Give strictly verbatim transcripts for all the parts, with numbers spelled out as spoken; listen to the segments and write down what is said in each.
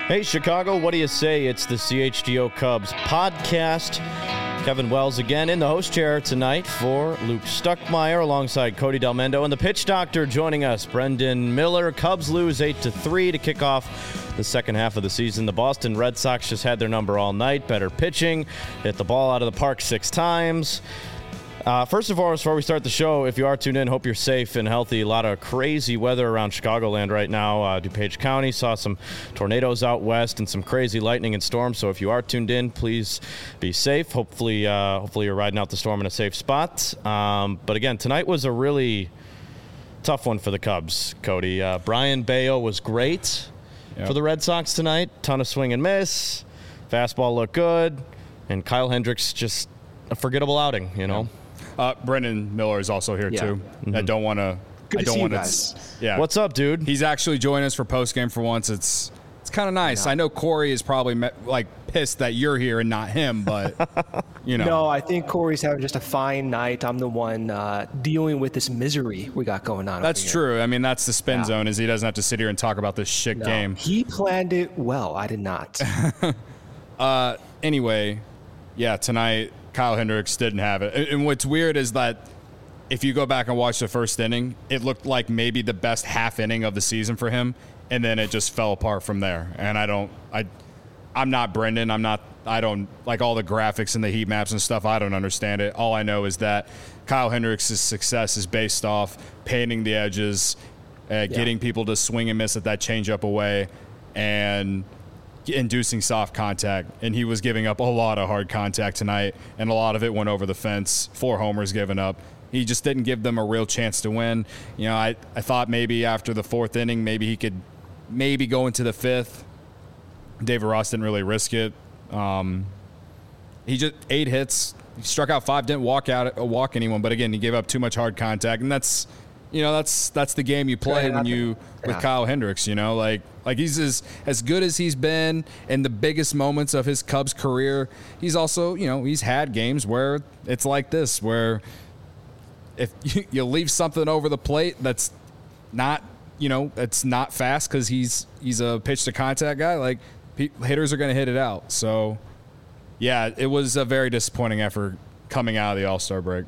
Hey, Chicago, what do you say? It's the C H G O Cubs podcast. Kevin Wells again in the host chair tonight for Luke Stuckmeyer alongside Cody Delmendo and the pitch doctor joining us, Brendan Miller. Cubs lose eight to three to kick off the second half of the season. The Boston Red Sox just had their number all night. Better pitching, hit the ball out of the park six times. Uh, first of all, before we start the show, if you are tuned in, hope you're safe and healthy. A lot of crazy weather around Chicagoland right now. Uh, DuPage County saw some tornadoes out west and some crazy lightning and storms. So if you are tuned in, please be safe. Hopefully, uh, hopefully you're riding out the storm in a safe spot. Um, but again, tonight was a really tough one for the Cubs, Cody. Uh, Brayan Bello was great yep. for the Red Sox tonight. Ton of swing and miss. Fastball looked good. And Kyle Hendricks just a forgettable outing, you know. Yep. Uh, Brendan Miller is also here yeah. too. Mm-hmm. I don't want to. Good I to don't see want you guys. to. Yeah. What's up, dude? He's actually joining us for post game for once. It's it's kind of nice. Yeah. I know Corey is probably me- like pissed that you're here and not him, but you know. No, I think Corey's having just a fine night. I'm the one uh, dealing with this misery we got going on. That's true. I mean, that's the spin yeah. zone. Is he doesn't have to sit here and talk about this shit no, game. He planned it well. I did not. uh, anyway, yeah, tonight Kyle Hendricks didn't have it, and what's weird is that. If you go back and watch the first inning, it looked like maybe the best half inning of the season for him, and then it just fell apart from there. And I don't, I, I'm not Brendan. I'm not. I don't like all the graphics and the heat maps and stuff. I don't understand it. All I know is that Kyle Hendricks' success is based off painting the edges, uh, yeah. getting people to swing and miss at that changeup away, and inducing soft contact. And he was giving up a lot of hard contact tonight, and a lot of it went over the fence. Four homers given up. He just didn't give them a real chance to win. You know, I, I thought maybe after the fourth inning, maybe he could maybe go into the fifth. David Ross didn't really risk it. Um, he just eight hits, he struck out five, didn't walk out walk anyone. But again, he gave up too much hard contact, and that's you know that's that's the game you play when you with yeah. Kyle Hendricks. You know, like like he's as as good as he's been in the biggest moments of his Cubs career. He's also you know he's had games where it's like this where. If you, you leave something over the plate that's not, you know, it's not fast because he's he's a pitch to contact guy, like hitters are going to hit it out. So, yeah, it was a very disappointing effort coming out of the All-Star break.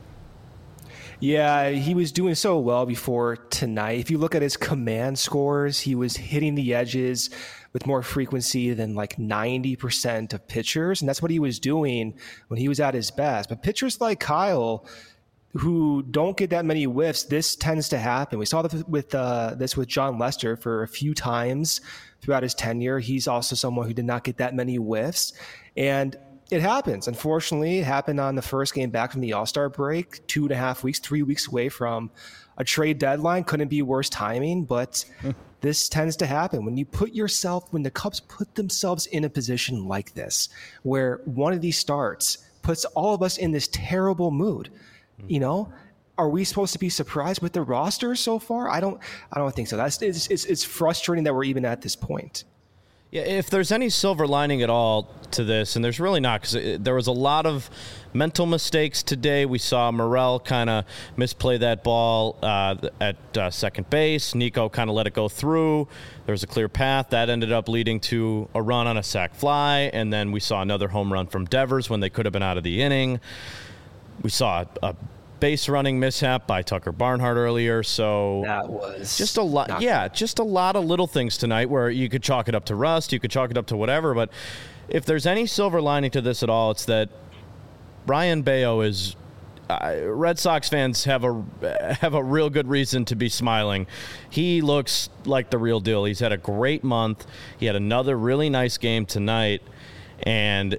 Yeah, he was doing so well before tonight. If you look at his command scores, he was hitting the edges with more frequency than like ninety percent of pitchers. And that's what he was doing when he was at his best. But pitchers like Kyle, who don't get that many whiffs, this tends to happen. We saw this with uh, this with John Lester for a few times throughout his tenure. He's also someone who did not get that many whiffs. And it happens. Unfortunately, it happened on the first game back from the All-Star break, two and a half weeks, three weeks away from a trade deadline. Couldn't be worse timing, but this tends to happen. When you put yourself, when the Cubs put themselves in a position like this, where one of these starts puts all of us in this terrible mood, you know, are we supposed to be surprised with the roster so far? I don't, I don't think so. That's it's, it's, it's frustrating that we're even at this point. Yeah, if there's any silver lining at all to this, and there's really not, because there was a lot of mental mistakes today. We saw Morel kind of misplay that ball uh, at uh, second base. Nico kind of let it go through. There was a clear path. That ended up leading to a run on a sac fly, and then we saw another home run from Devers when they could have been out of the inning. We saw a base running mishap by Tucker Barnhart earlier, so that was just a lot. Yeah, just a lot of little things tonight where you could chalk it up to rust, you could chalk it up to whatever. But if there's any silver lining to this at all, it's that Brayan Bello is. Uh, Red Sox fans have a have a real good reason to be smiling. He looks like the real deal. He's had a great month. He had another really nice game tonight, and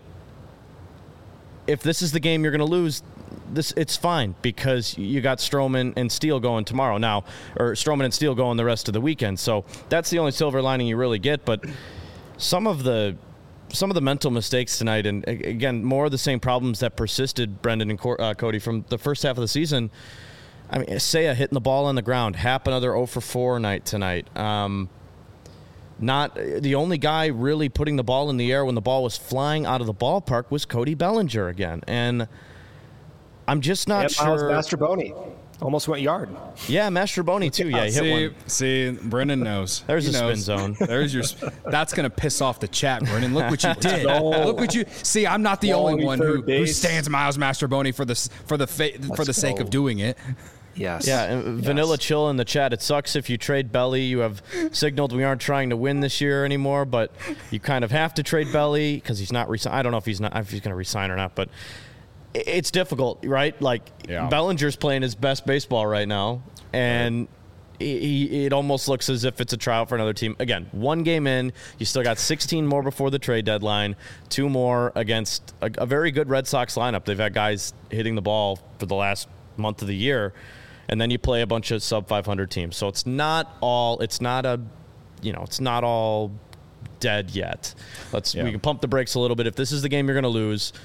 if this is the game you're going to lose, this it's fine because you got Stroman and Steele going tomorrow now, or Stroman and Steele going the rest of the weekend. So that's the only silver lining you really get. But some of the some of the mental mistakes tonight, and again, more of the same problems that persisted, Brendan and uh, Cody, from the first half of the season. I mean, Seiya hitting the ball on the ground, Happ another oh for four night tonight. Um, Not the only guy really putting the ball in the air when the ball was flying out of the ballpark was Cody Bellinger again. And I'm just not and sure. Miles Mastrobuoni. Almost went yard. Yeah, Mastrobuoni too. Yeah, he hit see, one. see, Brendan knows. There's He a spin knows. zone. There's your. That's gonna piss off the chat, Brendan. Look what you did. Look what you. See, I'm not the Quality only one who, third base. who stands Miles Mastrobuoni for the for the fa- for the sake go. of doing it. Yes. Yeah, and Yes. Vanilla Chill in the chat. It sucks if you trade Belly. You have signaled we aren't trying to win this year anymore, but you kind of have to trade Belly because he's not. Resi- I don't know if he's not if he's going to resign or not, but i- it's difficult, right? Like Yeah. Bellinger's playing his best baseball right now, and he, he, it almost looks as if it's a tryout for another team. Again, one game in, you still got sixteen more before the trade deadline. Two more against a, a very good Red Sox lineup. They've had guys hitting the ball for the last month of the year. And then you play a bunch of sub five hundred teams. So it's not all, it's not a, you know, it's not all dead yet. Let's, Yeah. we can pump the brakes a little bit. If this is the game you're going to lose,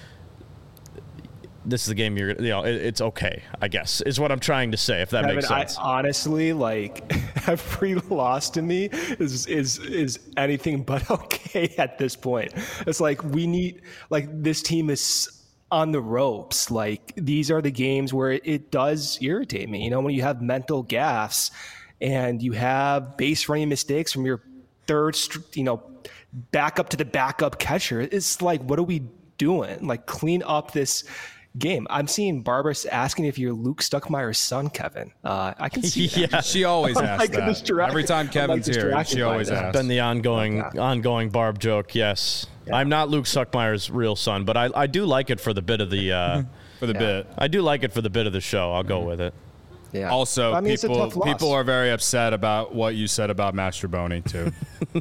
this is the game you're, you know, it, it's okay, I guess, is what I'm trying to say, if that Kevin, makes sense. I, honestly, like every loss to me is is is anything but okay at this point. It's like we need, like this team is on the ropes. Like these are the games where it, it does irritate me. You know, when you have mental gaffes and you have base running mistakes from your third, str- you know, back up to the backup catcher. It's like, what are we doing? Like clean up this game. I'm seeing Barbara asking if you're Luke Stuckmeyer's son, Kevin. Uh, I can see that. yeah. She always I'm asks like that. distracted- Every time I'm Kevin's like here, distracted she by always that. asks. Been the ongoing, Okay. ongoing Barb joke, yes. I'm not Luke Suckmeyer's real son, but I, I do like it for the bit of the, uh, for the Yeah. bit. I do like it for the bit of the show. I'll go with it. Yeah. Also, I mean, it's a people tough loss. people are very upset about what you said about Mastrobuoni too.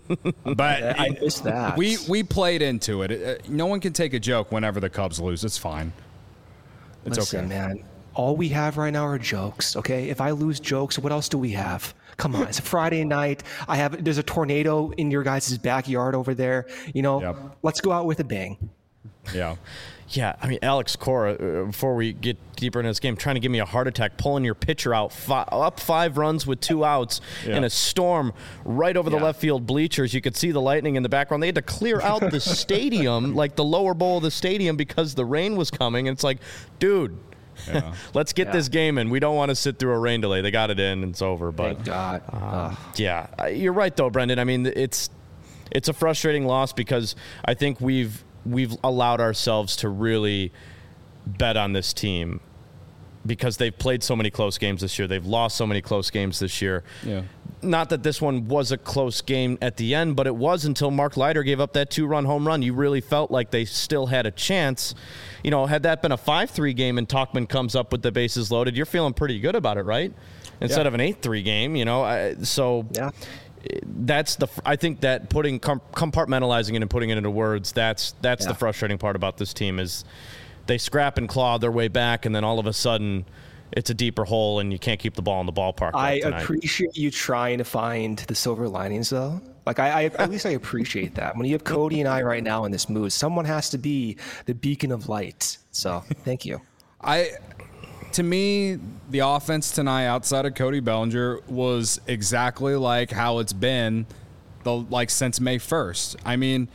But I missed that. we we played into it. Uh, No one can take a joke whenever the Cubs lose. It's fine. It's Listen, okay. man. All we have right now are jokes. Okay, if I lose jokes, what else do we have? Come on, it's a Friday night. I have there's a tornado in your guys' backyard over there. You know, Yep. let's go out with a bang. Yeah. Yeah, I mean, Alex Cora, uh, before we get deeper into this game, trying to give me a heart attack, pulling your pitcher out, fi- up five runs with two outs Yeah. in a storm right over the Yeah. left field bleachers. You could see the lightning in the background. They had to clear out the stadium, like the lower bowl of the stadium, because the rain was coming. And it's like, dude, Yeah. let's get Yeah. this game in. We don't want to sit through a rain delay. They got it in, and it's over. But Thank God. Ugh. yeah, I- you're right though, Brendan. I mean, it's it's a frustrating loss because I think we've we've allowed ourselves to really bet on this team because they've played so many close games this year. They've lost so many close games this year. Yeah. Not that this one was a close game at the end, but it was until Mark Leiter gave up that two-run home run. You really felt like they still had a chance. You know, had that been a five three game and Tauchman comes up with the bases loaded, you're feeling pretty good about it, right? Instead Yeah. of an eight three game, you know. I, so Yeah. that's the I think that putting com- compartmentalizing it and putting it into words, that's that's Yeah. the frustrating part about this team is they scrap and claw their way back, and then all of a sudden it's a deeper hole and you can't keep the ball in the ballpark. I like tonight. appreciate you trying to find the silver linings, though. Like I, I, at least I appreciate that. When you have Cody and I right now in this mood, someone has to be the beacon of light. So thank you. I to me, the offense tonight outside of Cody Bellinger was exactly like how it's been the like since May first. I mean,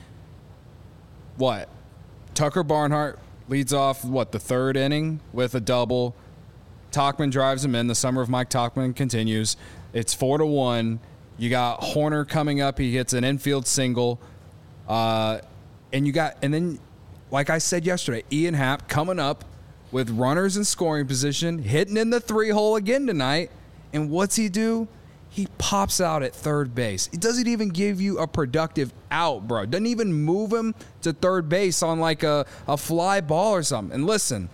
what? Tucker Barnhart leads off what the third inning with a double. Tauchman drives him in. The summer of Mike Tauchman continues. It's four to one. You got Horner coming up. He hits an infield single. Uh, and you got, and then, like I said yesterday, Ian Happ coming up with runners in scoring position, hitting in the three hole again tonight. And what's he do? He pops out at third base. He doesn't even give you a productive out, bro. Doesn't even move him to third base on like a, a fly ball or something. And listen,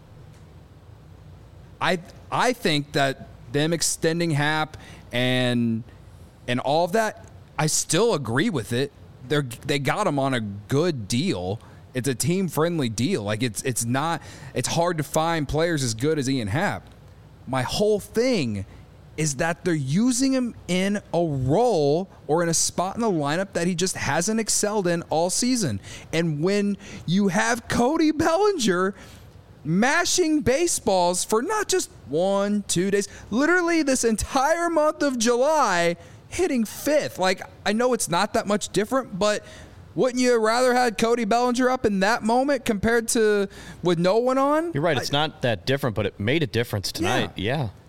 I I think that them extending Happ and and all of that, I still agree with it. They're they got him on a good deal. It's a team friendly deal. Like it's it's not it's hard to find players as good as Ian Happ. My whole thing is that they're using him in a role or in a spot in the lineup that he just hasn't excelled in all season. And when you have Cody Bellinger mashing baseballs for not just one, two days, literally this entire month of July, hitting fifth. Like, I know it's not that much different, but wouldn't you rather had Cody Bellinger up in that moment compared to with no one on? You're right. It's I, not that different, but it made a difference tonight. Yeah.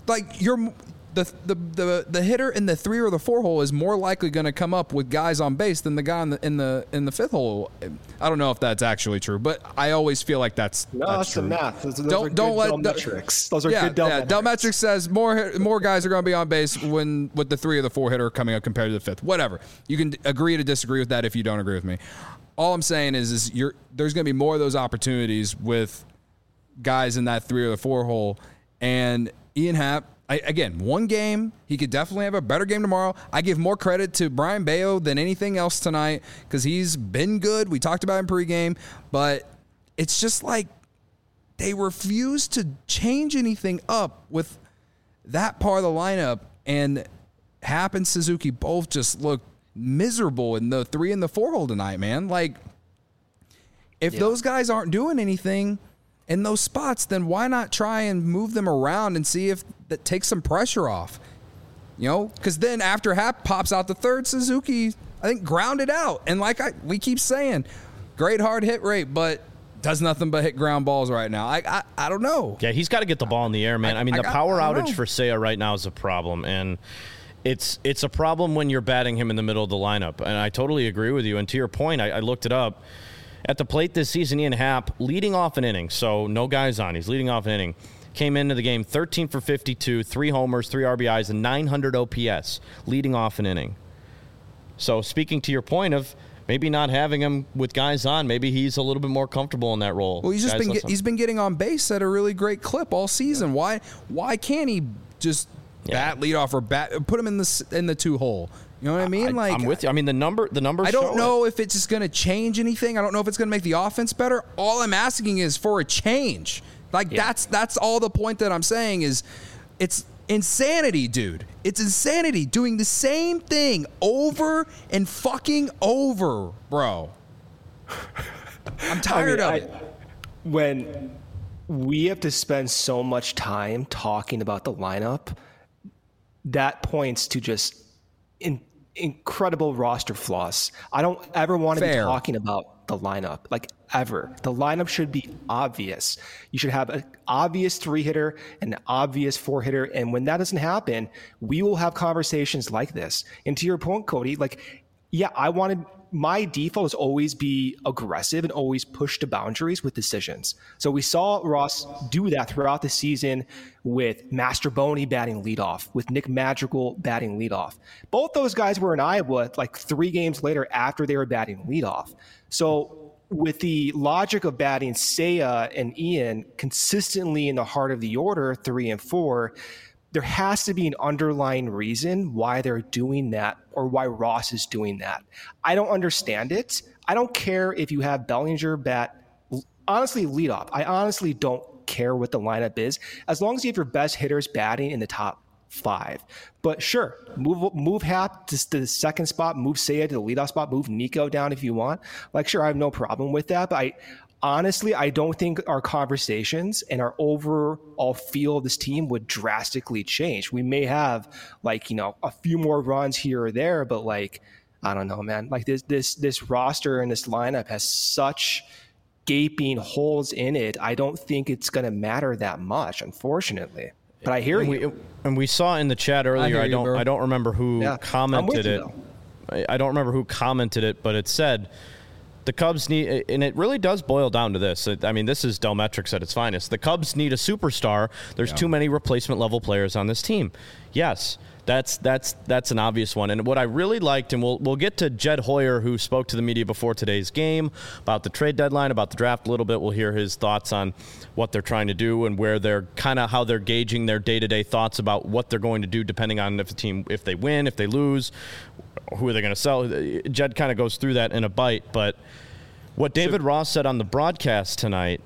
like you're the the the the hitter in the three or the four hole is more likely going to come up with guys on base than the guy in the in the in the fifth hole. I don't know if that's actually true, but I always feel like that's no, that's, that's true. the math. Those, those don't are don't let Dell metrics. Those are yeah, good Dell yeah. metrics. Dell metrics says more more guys are going to be on base when with the three or the four hitter coming up compared to the fifth. Whatever. You can agree to disagree with that if you don't agree with me. All I'm saying is is you're there's going to be more of those opportunities with guys in that three or the four hole, and Ian Happ. I, again, one game. He could definitely have a better game tomorrow. I give more credit to Brayan Bello than anything else tonight because he's been good. We talked about him pregame, but it's just like they refuse to change anything up with that part of the lineup. And Happ and Suzuki both just look miserable in the three and the four hole tonight, man. Like, if yeah. those guys aren't doing anything in those spots, then why not try and move them around and see if that takes some pressure off? You know, because then after Happ pops out the third, Suzuki, I think, grounded out. And like I, we keep saying, great hard hit rate, but does nothing but hit ground balls right now. I I, I don't know. Yeah, he's got to get the ball in the air, man. I, I mean, I the got, power outage know. for Seiya right now is a problem, and it's it's a problem when you're batting him in the middle of the lineup. And I totally agree with you. And to your point, I, I looked it up. At the plate this season, Ian Happ, leading off an inning, so no guys on. He's leading off an inning. Came into the game thirteen for fifty-two, three homers, three R B Is, and nine hundred O P S, leading off an inning. So speaking to your point of maybe not having him with guys on, maybe he's a little bit more comfortable in that role. Well, he's just guys been get, he's been getting on base at a really great clip all season. Yeah. Why why can't he just yeah. bat leadoff or bat put him in the in the two hole? You know what I mean? I, like I'm with you. I mean, the number, the numbers. I don't show know it. if it's just going to change anything. I don't know if it's going to make the offense better. All I'm asking is for a change. Like yeah. that's that's all the point that I'm saying is, it's insanity, dude. It's insanity doing the same thing over and fucking over, bro. I'm tired I mean, of I, it. When we have to spend so much time talking about the lineup, that points to just in. incredible roster flaws. I don't ever want to Fair. be talking about the lineup, like ever. The lineup should be obvious. You should have an obvious three hitter and an obvious four hitter. And when that doesn't happen, we will have conversations like this. And to your point, Cody, like, yeah, I wanted my default is always be aggressive and always push the boundaries with decisions. So we saw Ross do that throughout the season with Mastrobuoni batting leadoff, with Nick Madrigal batting leadoff. Both those guys were in Iowa like three games later after they were batting leadoff. So with the logic of batting Seiya and Ian consistently in the heart of the order, three and four, there has to be an underlying reason why they're doing that or why Ross is doing that. I don't understand it. I don't care if you have Bellinger bat, honestly, lead off. I honestly don't care what the lineup is, as long as you have your best hitters batting in the top five. But sure, move move Happ to the second spot, move Seiya to the leadoff spot, move Nico down if you want. Like, sure, I have no problem with that, but I honestly, I don't think our conversations and our overall feel of this team would drastically change. We may have like, you know, a few more runs here or there, but like, I don't know, man, like this, this, this roster and this lineup has such gaping holes in it. I don't think it's going to matter that much, unfortunately, but I hear and you. We, and we saw in the chat earlier, I, I don't, you, I don't remember who yeah, commented it. I, I don't remember who commented it, but it said, the Cubs need, and it really does boil down to this. I mean, this is Dell Metrics at its finest. The Cubs need a superstar. There's yeah. too many replacement level players on this team. Yes, that's that's that's an obvious one. And what I really liked, and we'll we'll get to Jed Hoyer, who spoke to the media before today's game about the trade deadline, about the draft a little bit. We'll hear his thoughts on what they're trying to do and where they're kind of how they're gauging their day-to-day thoughts about what they're going to do, depending on if the team, if they win, if they lose, who are they going to sell. Jed kind of goes through that in a bite, but what David Ross said on the broadcast tonight,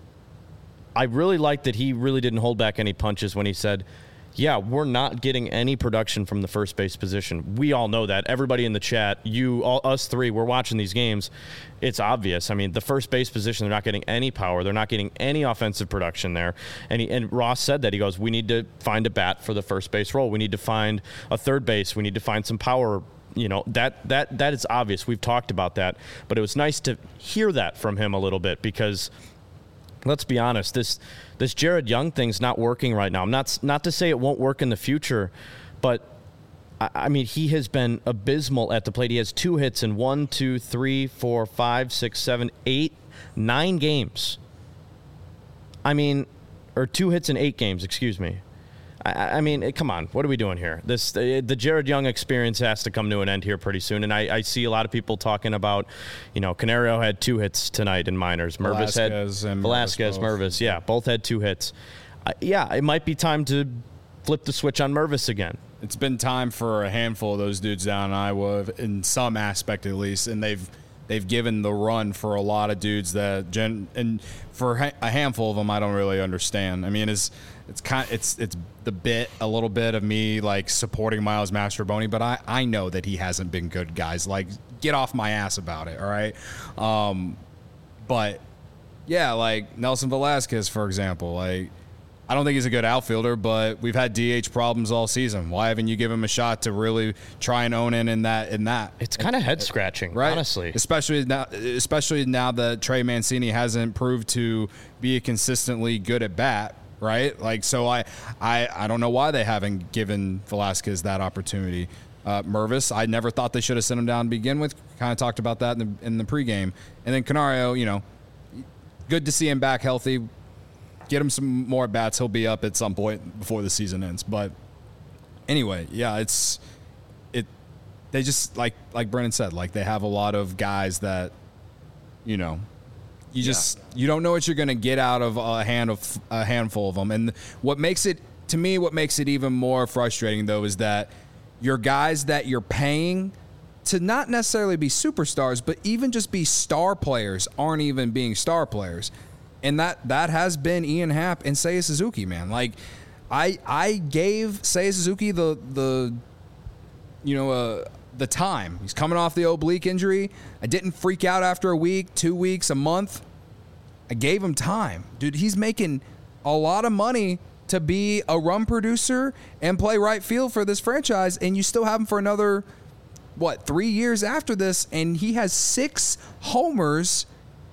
I really liked that he really didn't hold back any punches when he said, yeah, we're not getting any production from the first base position. We all know that. Everybody in the chat, you, all, us three, we're watching these games. It's obvious. I mean, the first base position, they're not getting any power. They're not getting any offensive production there. And, he, and Ross said that. He goes, we need to find a bat for the first base role. We need to find a third base. We need to find some power. You know, that that that is obvious. We've talked about that. But it was nice to hear that from him a little bit because let's be honest, this this Jared Young thing's not working right now. I'm not not to say it won't work in the future, but I, I mean, he has been abysmal at the plate. He has two hits in one, two, three, four, five, six, seven, eight, nine games. I mean, or two hits in eight games, excuse me. I, I mean, come on, what are we doing here? This the, the Jared Young experience has to come to an end here pretty soon. And I, I see a lot of people talking about, you know, Canario had two hits tonight in minors. Mervis had and Velasquez, Mervis, yeah, both had two hits. Uh, yeah, it might be time to flip the switch on Mervis again. It's been time for a handful of those dudes down in Iowa, in some aspect at least, and they've they've given the run for a lot of dudes that gen and for a handful of them I don't really understand. I mean, it's it's kind it's it's the bit a little bit of me like supporting Miles Mastrobuoni, but I I know that he hasn't been good, guys. Like, get off my ass about it, all right? Um, but yeah, like Nelson Velasquez, for example, like. I don't think he's a good outfielder, but we've had D H problems all season. Why haven't you given him a shot to really try and own in in that? In that, it's kind of head scratching, right? Honestly, especially now, especially now that Trey Mancini hasn't proved to be consistently good at bat, right? Like, so I, I, I don't know why they haven't given Velasquez that opportunity. Uh, Mervis, I never thought they should have sent him down to begin with. Kind of talked about that in the in the pregame, and then Canario, you know, good to see him back healthy. Get him some more bats. He'll be up at some point before the season ends. But anyway, yeah, it's it. They just like like Brennan said, like they have a lot of guys that, you know, you just yeah. you don't know what you're going to get out of a hand of a handful of them. And what makes it to me, what makes it even more frustrating though, is that your guys that you're paying to not necessarily be superstars, but even just be star players aren't even being star players. And that, that has been Ian Happ and Seiya Suzuki, man. Like, I I gave Seiya Suzuki the the you know uh, the time. He's coming off the oblique injury. I didn't freak out after a week, two weeks, a month. I gave him time, dude. He's making a lot of money to be a run producer and play right field for this franchise, and you still have him for another what three years after this, and he has six homers.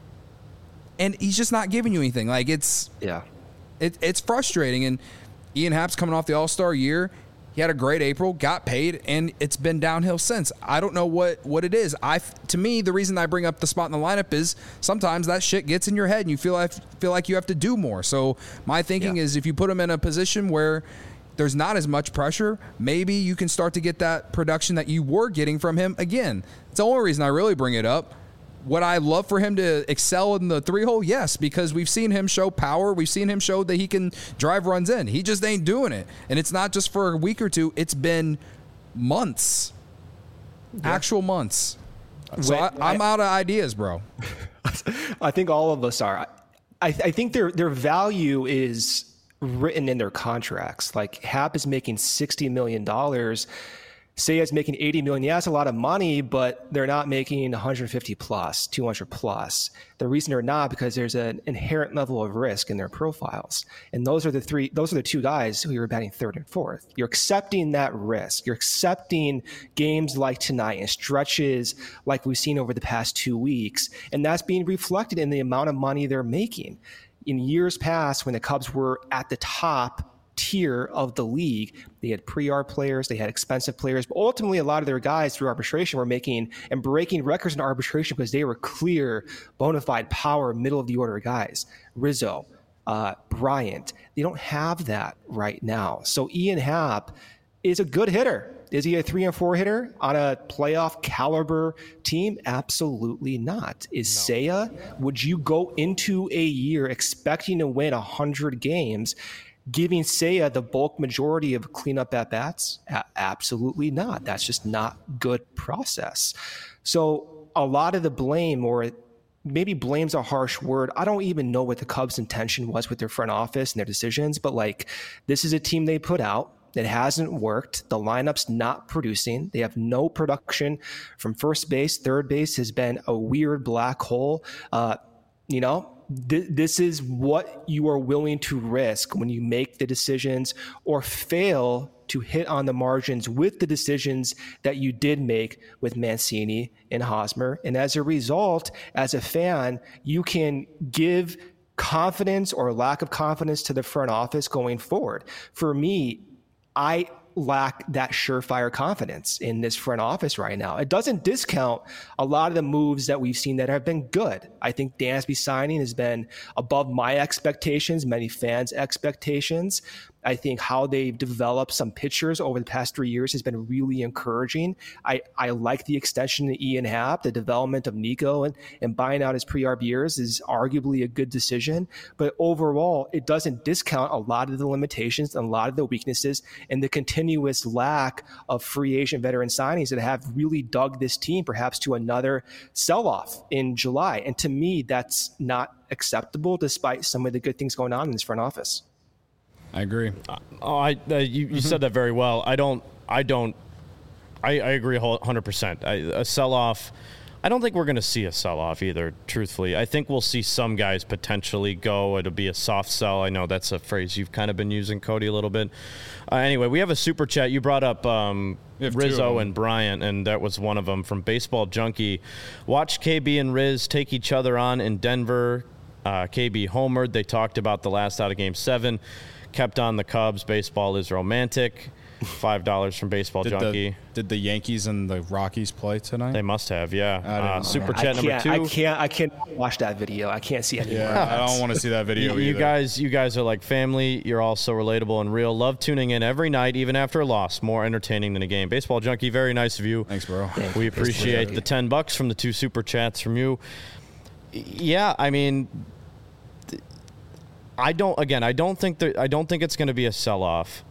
And he's just not giving you anything. Like, it's yeah, it, it's frustrating. And Ian Happ's coming off the All-Star year. He had a great April, got paid, and it's been downhill since. I don't know what, what it is. I to me, the reason I bring up the spot in the lineup is sometimes that shit gets in your head, and you feel like feel like you have to do more. So my thinking yeah. is, if you put him in a position where there's not as much pressure, maybe you can start to get that production that you were getting from him again. It's the only reason I really bring it up. Would I love for him to excel in the three-hole? Yes, because we've seen him show power. We've seen him show that he can drive runs in. He just ain't doing it. And it's not just for a week or two. It's been months, yeah. actual months. So I, I'm out of ideas, bro. I think all of us are. I, I think their their value is written in their contracts. Like, Happ is making sixty million dollars. Seiya's making eighty million dollars. Yeah, that's a lot of money, but they're not making one hundred fifty plus, two hundred plus. The reason they're not, because there's an inherent level of risk in their profiles. And those are the three, those are the two guys who you're batting third and fourth. You're accepting that risk. You're accepting games like tonight and stretches like we've seen over the past two weeks. And that's being reflected in the amount of money they're making. In years past, when the Cubs were at the top tier of the league, they had pre-R players, they had expensive players, but ultimately a lot of their guys through arbitration were making and breaking records in arbitration because they were clear, bona fide power, middle of the order guys. Rizzo, uh, Bryant, they don't have that right now. So Ian Happ is a good hitter. Is he a three and four hitter on a playoff caliber team? Absolutely not. Is no. Seiya, would you go into a year expecting to win one hundred games, giving Seiya the bulk majority of cleanup at-bats? A- absolutely not. That's just not good process. So a lot of the blame, or maybe blame's a harsh word. I don't even know what the Cubs' intention was with their front office and their decisions, but like, this is a team they put out. It hasn't worked. The lineup's not producing. They have no production from first base. Third base has been a weird black hole. Uh, you know, this is what you are willing to risk when you make the decisions or fail to hit on the margins with the decisions that you did make with Mancini and Hosmer. And as a result, as a fan, you can give confidence or lack of confidence to the front office going forward. For me, I lack that surefire confidence in this front office right now. It doesn't discount a lot of the moves that we've seen that have been good. I think Dansby signing has been above my expectations, many fans' expectations. I think how they've developed some pitchers over the past three years has been really encouraging. I, I like the extension to Ian Happ, the development of Nico, and, and buying out his pre-Arbiers is arguably a good decision. But overall, it doesn't discount a lot of the limitations and a lot of the weaknesses and the continuous lack of free agent veteran signings that have really dug this team perhaps to another sell-off in July. And to me, that's not acceptable despite some of the good things going on in this front office. I agree. Uh, oh, I uh, you, you mm-hmm. said that very well. I don't. I don't. I, I agree one hundred percent. I, a sell-off. I don't think we're going to see a sell-off either, truthfully. I think we'll see some guys potentially go. It'll be a soft sell. I know that's a phrase you've kind of been using, Cody, a little bit. Uh, anyway, we have a super chat. You brought up um, Rizzo and Bryant, and that was one of them from Baseball Junkie. Watch K B and Riz take each other on in Denver. Uh, K B homered. They talked about the last out of Game seven. Kept on the Cubs. Baseball is romantic. Five dollars from Baseball did Junkie. The, did the Yankees and the Rockies play tonight? They must have, yeah. Uh, super I chat number two. I can't. I can't watch that video. I can't see any. Yeah, I don't want to see that video. you, you either. guys, you guys are like family. You're all so relatable and real. Love tuning in every night, even after a loss. More entertaining than a game. Baseball Junkie, very nice of you. Thanks, bro. Thank we you. appreciate the ten bucks from the two super chats from you. Yeah, I mean. I don't. Again, I don't think that. I don't think it's going to be a sell-off.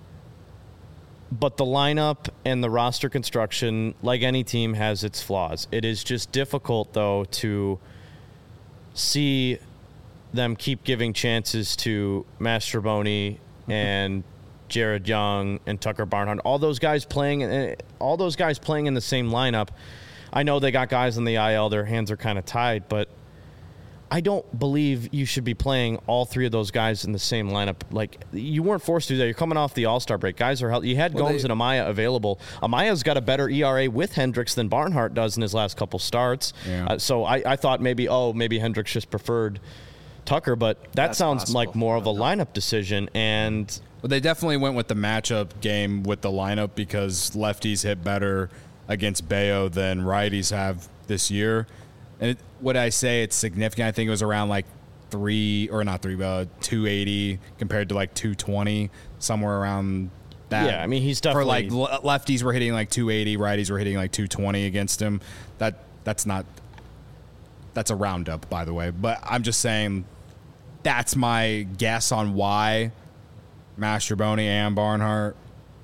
But the lineup and the roster construction, like any team, has its flaws. It is just difficult, though, to see them keep giving chances to Mastrobuoni and Jared Young and Tucker Barnhart. All those guys playing. All those guys playing in the same lineup. I know they got guys in the I L. Their hands are kind of tied, but. I don't believe you should be playing all three of those guys in the same lineup. Like, you weren't forced to do that. You're coming off the All-Star break. Guys are healthy. You had well, Gomes they, and Amaya available. Amaya's got a better E R A with Hendricks than Barnhart does in his last couple starts. Yeah. Uh, so I, I thought maybe, oh, maybe Hendricks just preferred Tucker, but that That's sounds possible. like more of a lineup decision. And well, they definitely went with the matchup game with the lineup because lefties hit better against Bayo than righties have this year. And it, what I say, it's significant. I think it was around like three or not three, but two eighty compared to like two twenty, somewhere around that. Yeah, I mean, he's definitely for like lefties were hitting like two eighty, righties were hitting like two twenty against him. That that's not that's a roundup, by the way. But I'm just saying that's my guess on why Mastrobuoni and Barnhart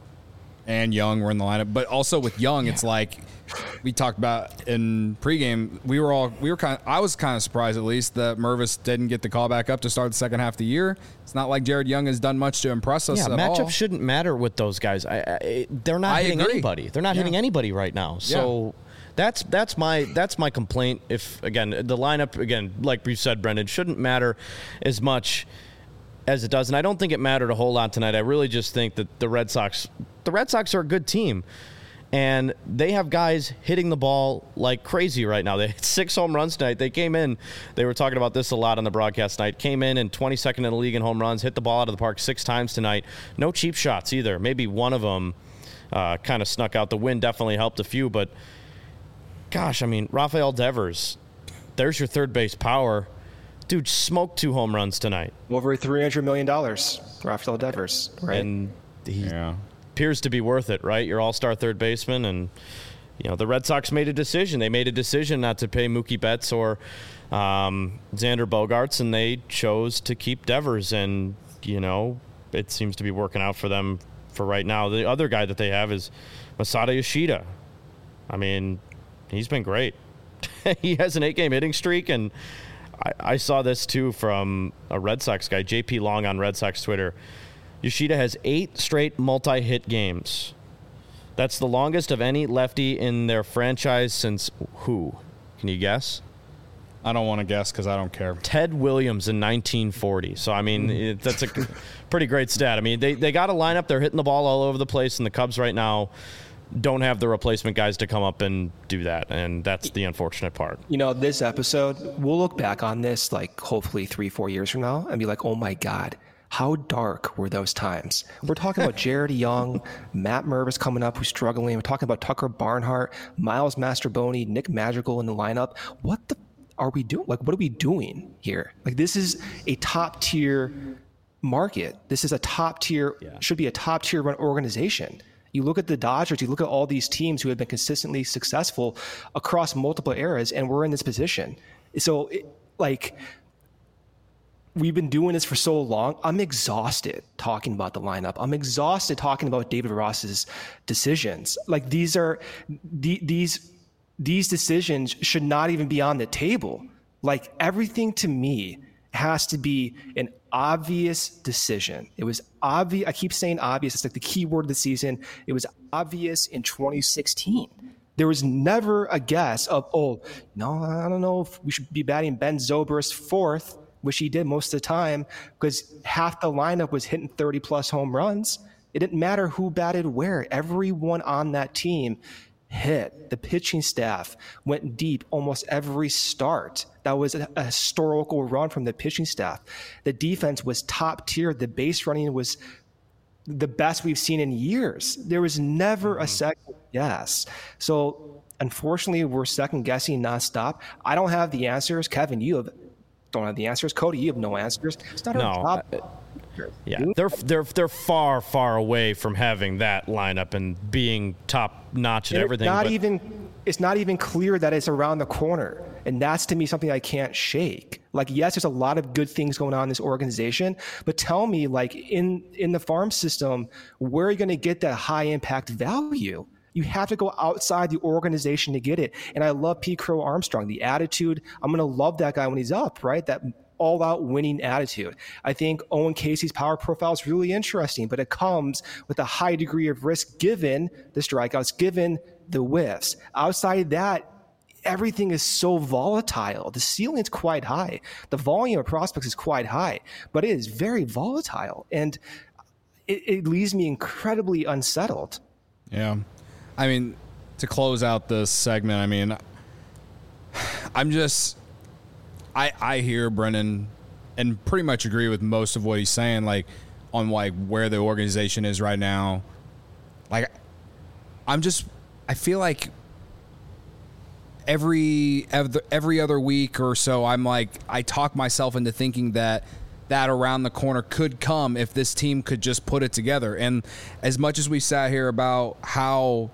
and Young were in the lineup. But also with Young, yeah. it's like. We talked about in pregame. We were all we were kind of. I was kind of surprised, at least, that Mervis didn't get the call back up to start the second half of the year. It's not like Jared Young has done much to impress us. Yeah, at matchup all. shouldn't matter with those guys. I, I, they're not I hitting agree. anybody. They're not yeah. hitting anybody right now. So yeah. that's that's my that's my complaint. If again the lineup again, like we said, Brendan, shouldn't matter as much as it does, and I don't think it mattered a whole lot tonight. I really just think that the Red Sox, the Red Sox are a good team. And they have guys hitting the ball like crazy right now. They hit six home runs tonight. They came in, they were talking about this a lot on the broadcast tonight, came in and twenty-second in the league in home runs, hit the ball out of the park six times tonight. No cheap shots either. Maybe one of them uh, kind of snuck out. The wind definitely helped a few, but gosh, I mean, Rafael Devers, there's your third base power. Dude smoked two home runs tonight. Over three hundred million dollars, Rafael Devers, right? And he... Yeah. appears to be worth it, right? Your all-star third baseman, and you know the Red Sox made a decision. They made a decision not to pay Mookie Betts or um, Xander Bogaerts, and they chose to keep Devers, and you know it seems to be working out for them for right now. The other guy that they have is Masada Yoshida. I mean, he's been great. He has an eight-game hitting streak, and I, I saw this too from a Red Sox guy, J P Long on Red Sox Twitter. Yoshida has eight straight multi-hit games. That's the longest of any lefty in their franchise since who? Can you guess? I don't want to guess because I don't care. Ted Williams in nineteen forty. So, I mean, it, that's a pretty great stat. I mean, they, they got a lineup. They're hitting the ball all over the place, and the Cubs right now, don't have the replacement guys to come up and do that, and that's the unfortunate part. You know, this episode, we'll look back on this like hopefully three, four years from now and be like, oh my God, how dark were those times? We're talking about Jared Young, Matt Mervis coming up who's struggling. We're talking about Tucker Barnhart, Miles Mastroboni, Nick Madrigal in the lineup. What the are we doing? Like, what are we doing here? Like, this is a top tier market. This is a top tier, yeah. should be a top tier run organization. You look at the Dodgers, you look at all these teams who have been consistently successful across multiple eras, and we're in this position. So, it, like, we've been doing this for so long. I'm exhausted talking about the lineup. I'm exhausted talking about David Ross's decisions. Like, these are the, these these decisions should not even be on the table. Like, everything to me has to be an obvious decision. It was obvious. I keep saying obvious. It's like the key word of the season. It was obvious in twenty sixteen. There was never a guess of, oh, no, I don't know if we should be batting Ben Zobrist fourth, which he did most of the time, because half the lineup was hitting thirty plus home runs. It didn't matter who batted where. Everyone on that team hit. The pitching staff went deep almost every start. That was a, a historical run from the pitching staff. The defense was top tier. The base running was the best we've seen in years. There was never mm-hmm. a second guess. So unfortunately, we're second guessing nonstop. I don't have the answers. Kevin, you have don't have the answers. Cody, you have no answers. It's not no, our job. I, yeah, they're they're they're far far away from having that lineup and being top notch at everything. It's not but even it's not even clear that it's around the corner, and that's to me something I can't shake. Like, yes, there's a lot of good things going on in this organization, but tell me, like, in in the farm system, where are you going to get that high impact value? You have to go outside the organization to get it. And I love Pete Crow Armstrong, the attitude. I'm going to love that guy when he's up, right? That all-out winning attitude. I think Owen Casey's power profile is really interesting, but it comes with a high degree of risk given the strikeouts, given the whiffs. Outside of that, everything is so volatile. The ceiling's quite high. The volume of prospects is quite high, but it is very volatile. And it, it leaves me incredibly unsettled. Yeah. I mean, to close out this segment, I mean, I'm just, I I hear Brennan and pretty much agree with most of what he's saying, like, on, like, where the organization is right now. Like, I'm just, I feel like every every other week or so, I'm like, I talk myself into thinking that that around the corner could come if this team could just put it together. And as much as we sat here about how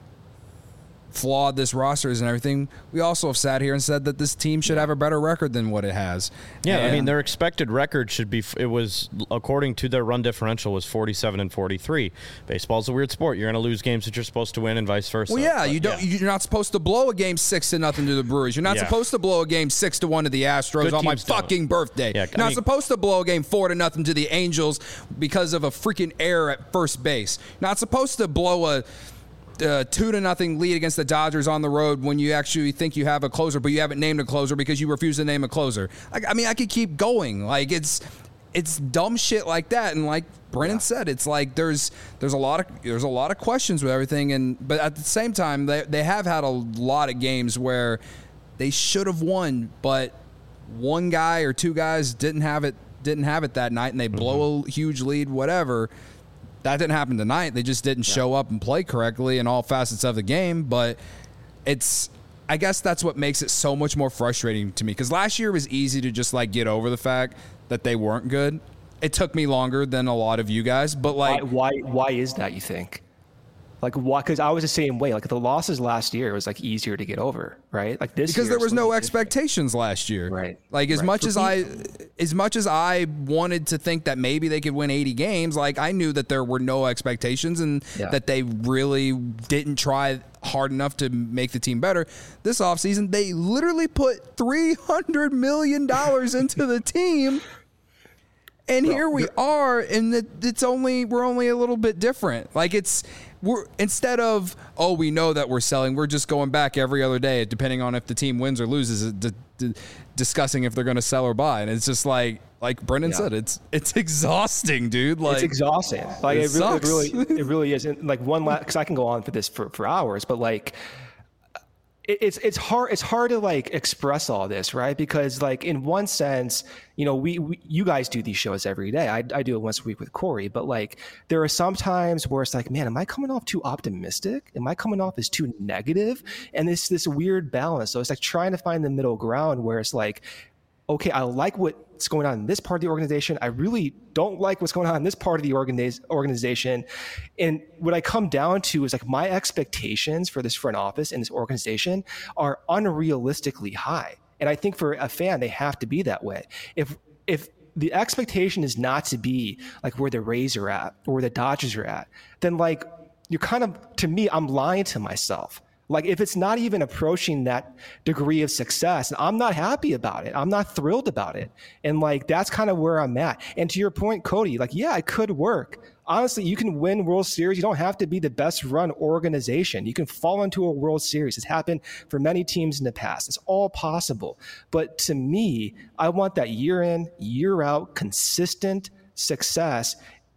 flawed this roster is and everything, we also have sat here and said that this team should have a better record than what it has. Yeah, and I mean, their expected record should be, it was, according to their run differential, was forty-seven and forty-three. Baseball's a weird sport. You're going to lose games that you're supposed to win and vice versa. Well, yeah, but, you don't, yeah. you're not supposed to blow a game six to nothing to the Brewers. You're not Yeah. supposed to blow a game six to one to the Astros Good on my teams don't. fucking birthday. Yeah, You're I not mean- supposed to blow a game four to nothing to the Angels because of a freaking error at first base. You're not supposed to blow a Uh, two to nothing lead against the Dodgers on the road when you actually think you have a closer, but you haven't named a closer because you refuse to name a closer. I, I mean, I could keep going. Like, it's it's dumb shit like that. And like Brennan yeah. said, it's like there's there's a lot of there's a lot of questions with everything. And but at the same time, they they have had a lot of games where they should have won, but one guy or two guys didn't have it didn't have it that night, and they blow mm-hmm. a huge lead, whatever. That didn't happen tonight. They just didn't yeah. show up and play correctly in all facets of the game. But it's, I guess that's what makes it so much more frustrating to me. Because last year it was easy to just like get over the fact that they weren't good. It took me longer than a lot of you guys. But like, why, why, why is that, you think? Like, why? Because I was the same way. Like, the losses last year, it was like easier to get over, right? Like this because year, there was no expectations last year, right? Like as right. much For as me, I, as much as I wanted to think that maybe they could win eighty games, like I knew that there were no expectations and yeah. that they really didn't try hard enough to make the team better. This offseason, they literally put three hundred million dollars into the team. And well, here we are, and it's only we're only a little bit different. Like it's we're instead of oh we know that we're selling, we're just going back every other day, depending on if the team wins or loses to, d- discussing if they're going to sell or buy. And it's just like, like Brendan yeah. said, it's it's exhausting, dude. Like it's exhausting. Like it, it, really, it really, it really is. And like one last, because I can go on for this for, for hours, but like it, it's it's hard it's hard to like express all this, right? Because like in one sense, you know, we, we you guys do these shows every day. I I do it once a week with Corey, but like there are some times where it's like, man, am I coming off too optimistic? Am I coming off as too negative? And it's this weird balance. So it's like trying to find the middle ground where it's like, okay, I like what's going on in this part of the organization. I really don't like what's going on in this part of the organiz- organization. And what I come down to is like my expectations for this front office and this organization are unrealistically high. And I think for a fan, they have to be that way. If if the expectation is not to be like where the Rays are at or where the Dodgers are at, then like you're kind of, to me, I'm lying to myself. Like if it's not even approaching that degree of success, I'm not happy about it. I'm not thrilled about it. And like, that's kind of where I'm at. And to your point, Cody, like, yeah, it could work. Honestly, you can win World Series. You don't have to be the best run organization. You can fall into a World Series. It's happened for many teams in the past. It's all possible. But to me, I want that year in, year out, consistent success.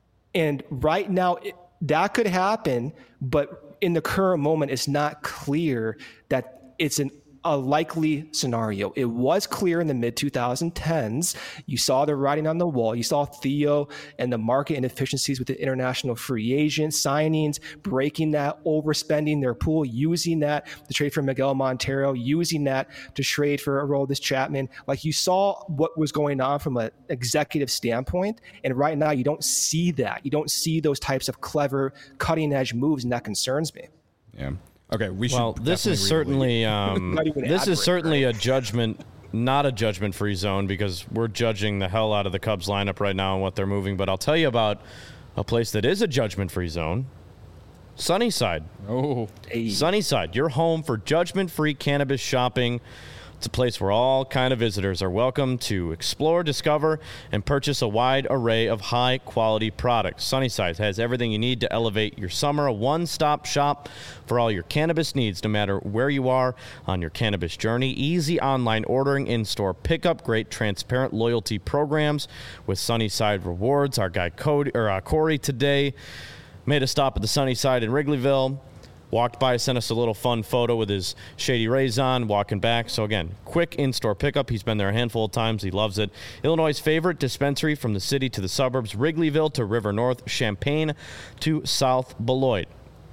And right now, it, that could happen, but in the current moment, it's not clear that it's an, a likely scenario. It was clear in the mid twenty tens. You saw the writing on the wall. You saw Theo and the market inefficiencies with the international free agent signings, breaking that, overspending their pool, using that to trade for Miguel Montero, using that to trade for Aroldis Chapman. Like you saw what was going on from an executive standpoint. And right now you don't see that. You don't see those types of clever cutting edge moves. And that concerns me. Yeah. Okay, we should. Well, this is certainly um, this is certainly right? a judgment, not a judgment-free zone, because we're judging the hell out of the Cubs lineup right now and what they're moving. But I'll tell you about a place that is a judgment-free zone: Sunnyside. Oh, hey. Sunnyside, your home for judgment-free cannabis shopping. It's a place where all kind of visitors are welcome to explore, discover, and purchase a wide array of high-quality products. Sunnyside has everything you need to elevate your summer, a one-stop shop for all your cannabis needs, no matter where you are on your cannabis journey. Easy online ordering, in-store pickup, great transparent loyalty programs with Sunnyside Rewards. Our guy Cody, or uh, Corey today made a stop at the Sunnyside in Wrigleyville. Walked by, sent us a little fun photo with his Shady Rays on, walking back. So, again, quick in-store pickup. He's been there a handful of times. He loves it. Illinois' favorite dispensary from the city to the suburbs, Wrigleyville to River North, Champaign to South Beloit.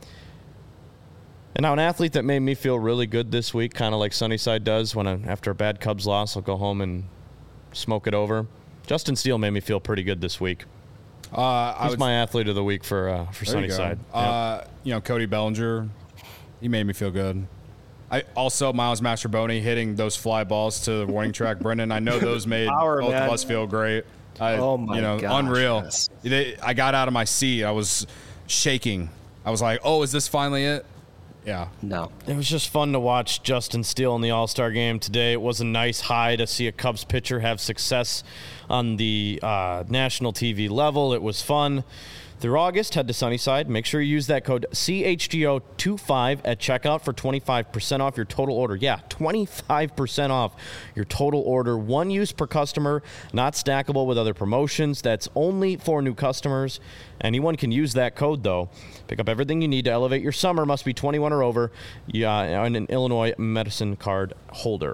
And now an athlete that made me feel really good this week, kind of like Sunnyside does when I, after a bad Cubs loss, I'll go home and smoke it over. Justin Steele made me feel pretty good this week. Uh, He's would, my athlete of the week for uh, for Sunnyside. You, uh, yep. you know, Cody Bellinger, he made me feel good. I also Miles Mastrobuoni hitting those fly balls to the warning track. Brendan, I know those made Power, both man. of us feel great. I, oh my you know, gosh, unreal. yes. They, I got out of my seat. I was shaking. I was like, "Oh, is this finally it?" Yeah. No. It was just fun to watch Justin Steele in the All-Star game today. It was a nice high to see a Cubs pitcher have success on the uh, national T V level. It was fun. Through August, head to Sunnyside. Make sure you use that code C H G O twenty-five at checkout for twenty-five percent off your total order. Yeah, twenty-five percent off your total order. One use per customer, not stackable with other promotions. That's only for new customers. Anyone can use that code, though. Pick up everything you need to elevate your summer. Must be twenty-one or over. Yeah, and an Illinois medicine card holder.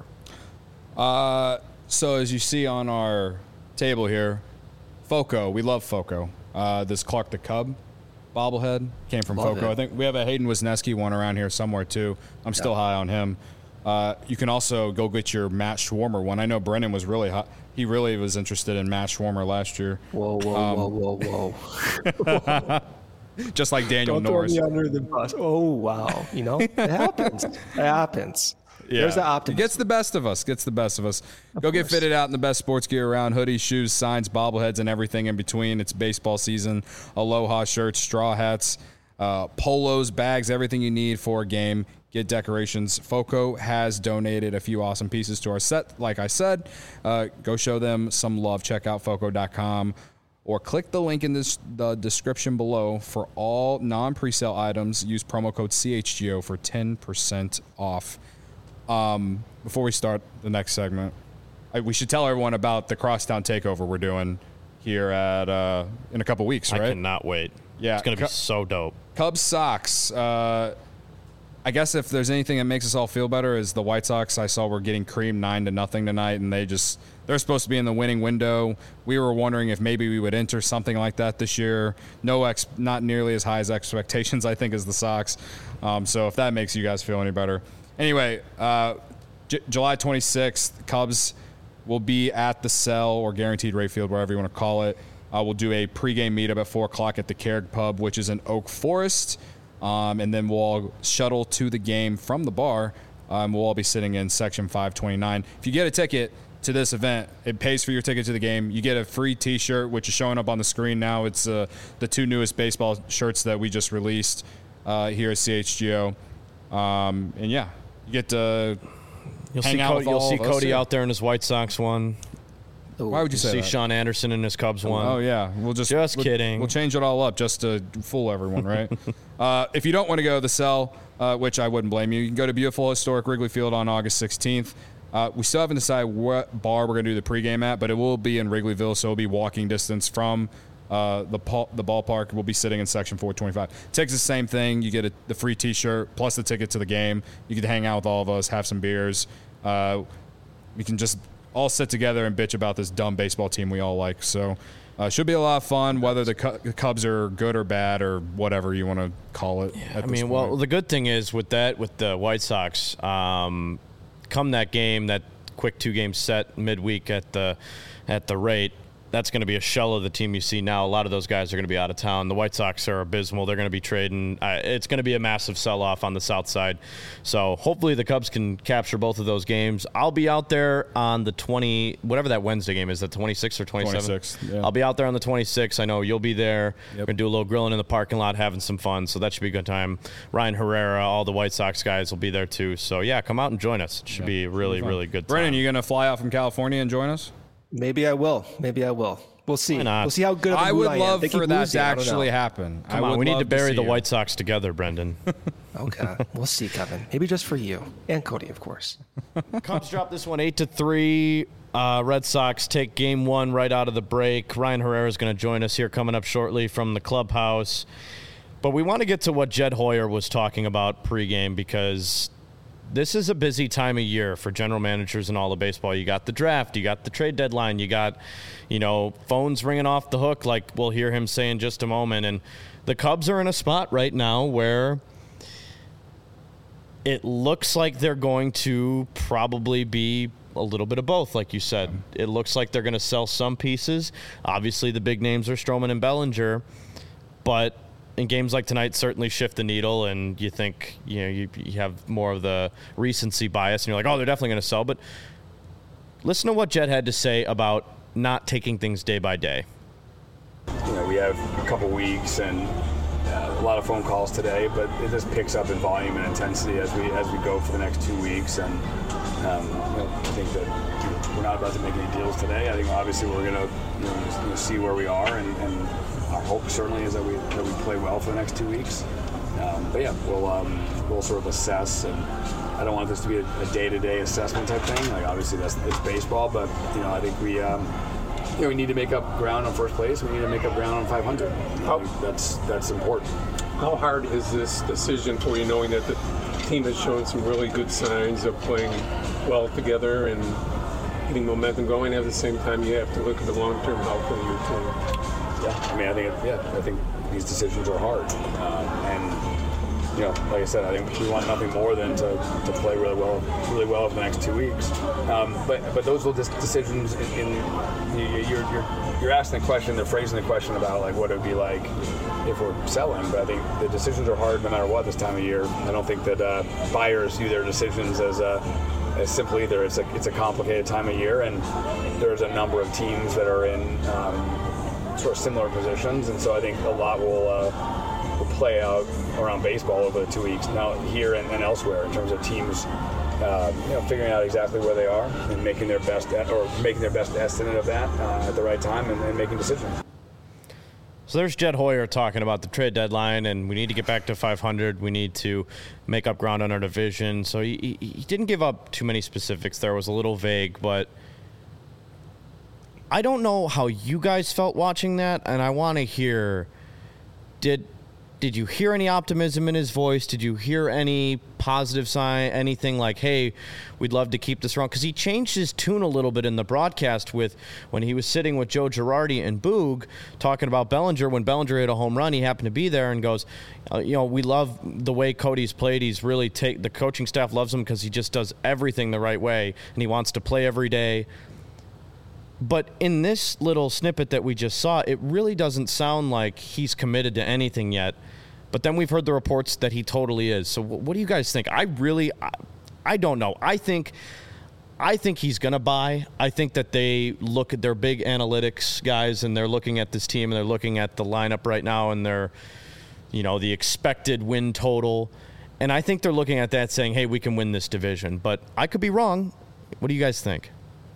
Uh, so as you see on our table here, Foco. We love Foco. Uh, this Clark the Cub bobblehead came from Love Foco. It. I think we have a Hayden Wisniewski one around here somewhere, too. I'm still yeah. high on him. Uh, you can also go get your Matt Schwarmer one. I know Brennan was really hot. He really was interested in Matt Schwarmer last year. Whoa, whoa, um, whoa, whoa, whoa. Just like Daniel Don't Norris. Throw me under the bus. Oh, wow. You know, it happens. It happens. Yeah. There's the optimism. It gets the best of us. Gets the best of us. Of Go course. Get fitted out in the best sports gear around. Hoodies, shoes, signs, bobbleheads, and everything in between. It's baseball season. Aloha shirts, straw hats, uh, polos, bags, everything you need for a game. Get decorations. Foco has donated a few awesome pieces to our set. Like I said, uh, go show them some love. Check out foco dot com or click the link in this, the description below for all non-presale items. Use promo code C H G O for ten percent off. Um, before we start the next segment, I, we should tell everyone about the Crosstown Takeover we're doing here at uh, in a couple weeks, right? I cannot wait. Yeah, it's gonna be Cu- so dope. Cubs Sox. Uh, I guess if there's anything that makes us all feel better is the White Sox. I saw we're getting creamed nine to nothing tonight, and they just they're supposed to be in the winning window. We were wondering if maybe we would enter something like that this year. No ex, not nearly as high as expectations, I think, as the Sox. Um, so if that makes you guys feel any better, anyway, uh, J- July twenty-sixth, Cubs will be at the Cell or Guaranteed Rate Field, whatever you want to call it. Uh, we'll do a pregame meetup at four o'clock at the Carrick Pub, which is in Oak Forest. Um, and then we'll all shuttle to the game from the bar. Um, we'll all be sitting in section five twenty-nine. If you get a ticket to this event, it pays for your ticket to the game. You get a free T-shirt, which is showing up on the screen now. It's uh, the two newest baseball shirts that we just released uh, here at C H G O. Um, and, yeah, you get to You'll hang see, out Cody, with you'll all see of us Cody here. out there in his White Sox one. Why would you say see that? Sean Anderson in his Cubs one. Oh, yeah. We'll just, Just we'll, kidding. We'll change it all up just to fool everyone, right? uh, if you don't want to go to the Cell, uh, which I wouldn't blame you, you can go to beautiful historic Wrigley Field on August sixteenth. Uh, we still haven't decided what bar we're going to do the pregame at, but it will be in Wrigleyville, so it'll be walking distance from uh, the pa- the ballpark. We'll be sitting in section four twenty-five. Tickets the same thing. You get a, the free T-shirt plus the ticket to the game. You get to hang out with all of us, have some beers. Uh, we can just all sit together and bitch about this dumb baseball team we all like. So uh, should be a lot of fun, whether the Cu- Cubs are good or bad or whatever you want to call it. Yeah, at I this mean, point. well, the good thing is with that, with the White Sox, um, come that game, that quick two-game set midweek at the at the rate, that's going to be a shell of the team you see now. A lot of those guys are going to be out of town. The White Sox are abysmal. They're going to be trading. Uh, it's going to be a massive sell-off on the south side. So hopefully the Cubs can capture both of those games. I'll be out there on the twenty, whatever that Wednesday game is, that twenty-sixth or twenty-seventh? twenty-sixth, yeah. I'll be out there on the twenty-sixth. I know you'll be there. Yep. We're going to do a little grilling in the parking lot, having some fun. So that should be a good time. Ryan Herrera, all the White Sox guys will be there too. So, yeah, come out and join us. It should Yeah, be a really, fun. really good time. Brennan, you going to fly out from California and join us? Maybe I will. Maybe I will. We'll see. Why not? We'll see how good of a I mood would I am. love They keep for that losing. to I don't actually know. happen. Come I on, would we need love to bury see the you. White Sox together, Brendan. Okay. We'll see, Kevin. Maybe just for you. And Cody, of course. Cubs drop this one eight to three. Uh, Red Sox take game one right out of the break. Ryan Herrera is going to join us here coming up shortly from the clubhouse. But we want to get to what Jed Hoyer was talking about pregame, because this is a busy time of year for general managers and all of baseball. You got the draft, you got the trade deadline, you got, you know, phones ringing off the hook, like we'll hear him say in just a moment. And the Cubs are in a spot right now where it looks like they're going to probably be a little bit of both, like you said. It looks like they're going to sell some pieces. Obviously, the big names are Stroman and Bellinger, but in games like tonight, certainly shift the needle, and you think, you know, you, you have more of the recency bias, and you're like, oh, they're definitely going to sell. But listen to what Jed had to say about not taking things day by day. You know, we have a couple weeks and uh, a lot of phone calls today, but it just picks up in volume and intensity as we as we go for the next two weeks. And um, you know, I think that we're not about to make any deals today. I think obviously we're going to you know, just, you know, see where we are, and, and our hope certainly is that we that we play well for the next two weeks. Um, but yeah, we'll um, we'll sort of assess, and I don't want this to be a, a day-to-day assessment type thing. Like obviously that's it's baseball, but you know I think we um, you know we need to make up ground on first place. We need to make up ground on five hundred. You know, that's that's important. How hard is this decision for you, knowing that the team has shown some really good signs of playing well together and getting momentum going? At the same time, you have to look at the long-term health of your team. Yeah, I mean, I think it, yeah, I think these decisions are hard, um, and you know, like I said, I think we want nothing more than to, to play really well, really well for the next two weeks. Um, but but those will just decisions in, in you, you're you're you're asking the question, they're phrasing the question about like what it would be like if we're selling. But I think the decisions are hard no matter what this time of year. I don't think that uh, buyers view their decisions as a as simply either. It's a it's a complicated time of year, and there's a number of teams that are in. Um, sort of similar positions, and so I think a lot will, uh, will play out around baseball over the two weeks now here and, and elsewhere in terms of teams uh, you know, figuring out exactly where they are and making their best or making their best estimate of that uh, at the right time and, and making decisions. So there's Jed Hoyer talking about the trade deadline, and we need to get back to five hundred. We need to make up ground on our division. So he, he, he didn't give up too many specifics there. It was a little vague, but I don't know how you guys felt watching that, and I want to hear, did did you hear any optimism in his voice? Did you hear any positive sign, anything like, hey, we'd love to keep this around? Because he changed his tune a little bit in the broadcast with when he was sitting with Joe Girardi and Boog talking about Bellinger. When Bellinger hit a home run, he happened to be there and goes, uh, you know, we love the way Cody's played. He's really take the coaching staff loves him because he just does everything the right way, and he wants to play every day. But in this little snippet that we just saw, it really doesn't sound like he's committed to anything yet. But then we've heard the reports that he totally is. So what do you guys think? I really, I, I don't know. I think, I think he's going to buy. I think that they look at their big analytics guys, and they're looking at this team, and they're looking at the lineup right now, and they're, you know, the expected win total. And I think they're looking at that saying, hey, we can win this division. But I could be wrong. What do you guys think?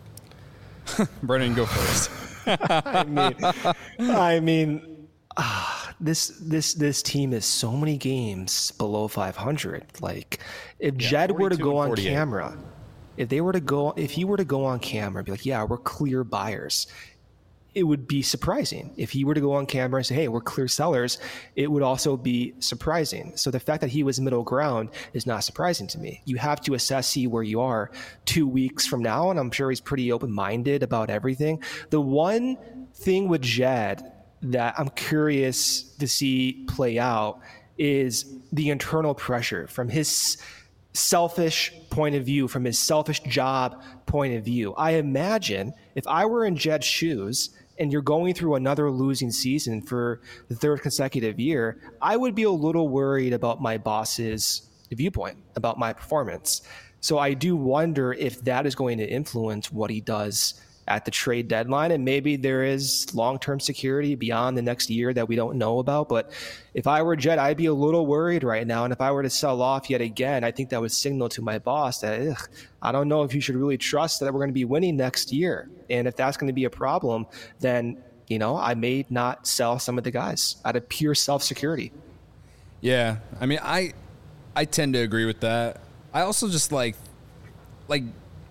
Brennan, go first. I mean, I mean, ah, this this this team is so many games below five hundred. Like, if Yeah, Jed were to forty-two go and on forty-eight. camera, if they were to go, if he were to go on camera and be like, "Yeah, we're clear buyers," it would be surprising. If he were to go on camera and say, "Hey, we're clear sellers," it would also be surprising. So the fact that he was middle ground is not surprising to me. You have to assess, see where you are two weeks from now, and I'm sure he's pretty open-minded about everything. The one thing with Jed that I'm curious to see play out is the internal pressure from his selfish point of view, from his selfish job point of view. I imagine if I were in Jed's shoes and you're going through another losing season for the third consecutive year, I would be a little worried about my boss's viewpoint, about my performance. So I do wonder if that is going to influence what he does at the trade deadline, and maybe there is long-term security beyond the next year that we don't know about. But if I were Jed, I'd be a little worried right now. And if I were to sell off yet again, I think that would signal to my boss that ugh, I don't know if you should really trust that we're going to be winning next year. And if that's going to be a problem, then, you know, I may not sell some of the guys out of pure self-security. Yeah, I mean, I I tend to agree with that. I also just like like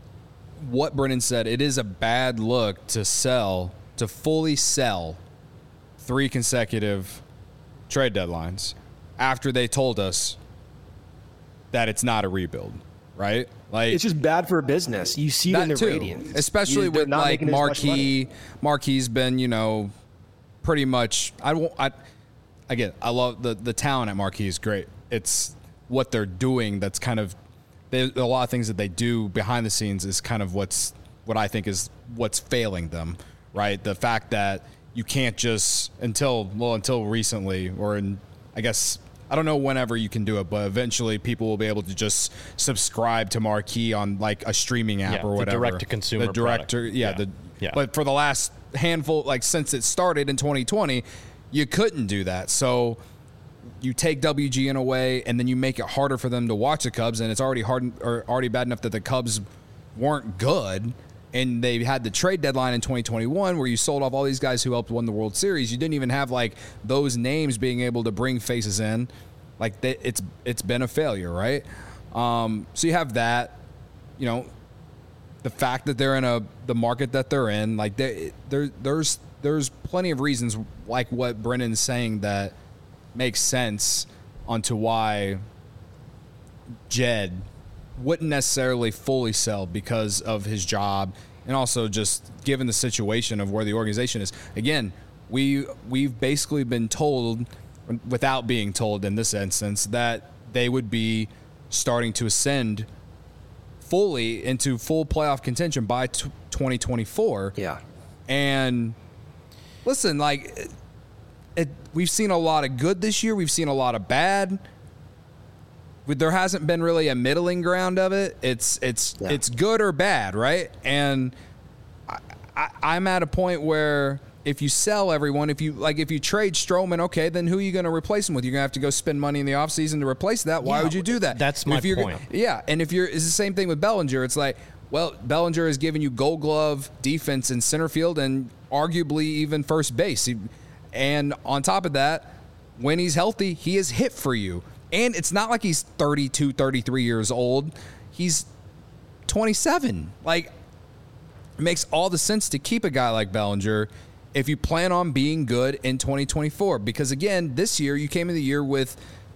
what Brennan said. It is a bad look to sell, to fully sell three consecutive trade deadlines after they told us that it's not a rebuild, right? Like, It's just bad for business. You see it in the too, ratings. especially You- they're with not like making as much money. Marquee. Marquee's been, you know, pretty much. I won't. I again, I love the the talent at Marquee is great. It's what they're doing that's kind of. There's a lot of things that they do behind the scenes is kind of what's what I think is what's failing them, right? The fact that you can't just until well until recently or in I guess I don't know whenever you can do it, but eventually people will be able to just subscribe to Marquee on like a streaming app Yeah, or the whatever. direct-to-consumer The director, product. yeah, Yeah. the Yeah. but for the last handful, like since it started in twenty twenty, you couldn't do that. So you take W G N away, and then you make it harder for them to watch the Cubs, and it's already hard or already bad enough that the Cubs weren't good, and they had the trade deadline in twenty twenty-one where you sold off all these guys who helped win the World Series. You didn't even have like those names being able to bring faces in. Like they, it's it's been a failure, right? Um, so you have that, you know, the fact that they're in a the market that they're in, like they, there there's there's plenty of reasons like what Brennan's saying that makes sense onto why Jed wouldn't necessarily fully sell because of his job and also just given the situation of where the organization is. Again, we we've basically been told, without being told in this instance, that they would be starting to ascend fully into full playoff contention by t- twenty twenty-four. Yeah. And listen, like it, it, we've seen a lot of good this year. We've seen a lot of bad. There hasn't been really a middling ground of it. It's it's Yeah. it's good or bad, right? And I, I, I'm at a point where if you sell everyone, if you like, if you trade Stroman, okay, then who are you going to replace him with? You're going to have to go spend money in the offseason to replace that. Why Yeah, would you do that? that's And my if you're, point. Yeah, and if you're, it's the same thing with Bellinger. It's like, well, Bellinger has given you Gold Glove defense in center field and arguably even first base. He, And on top of that, when he's healthy, he is hit for you. And it's not like he's thirty-two, thirty-three years old. He's twenty-seven. Like, it makes all the sense to keep a guy like Bellinger if you plan on being good in twenty twenty-four. Because, again, this year you came in the year with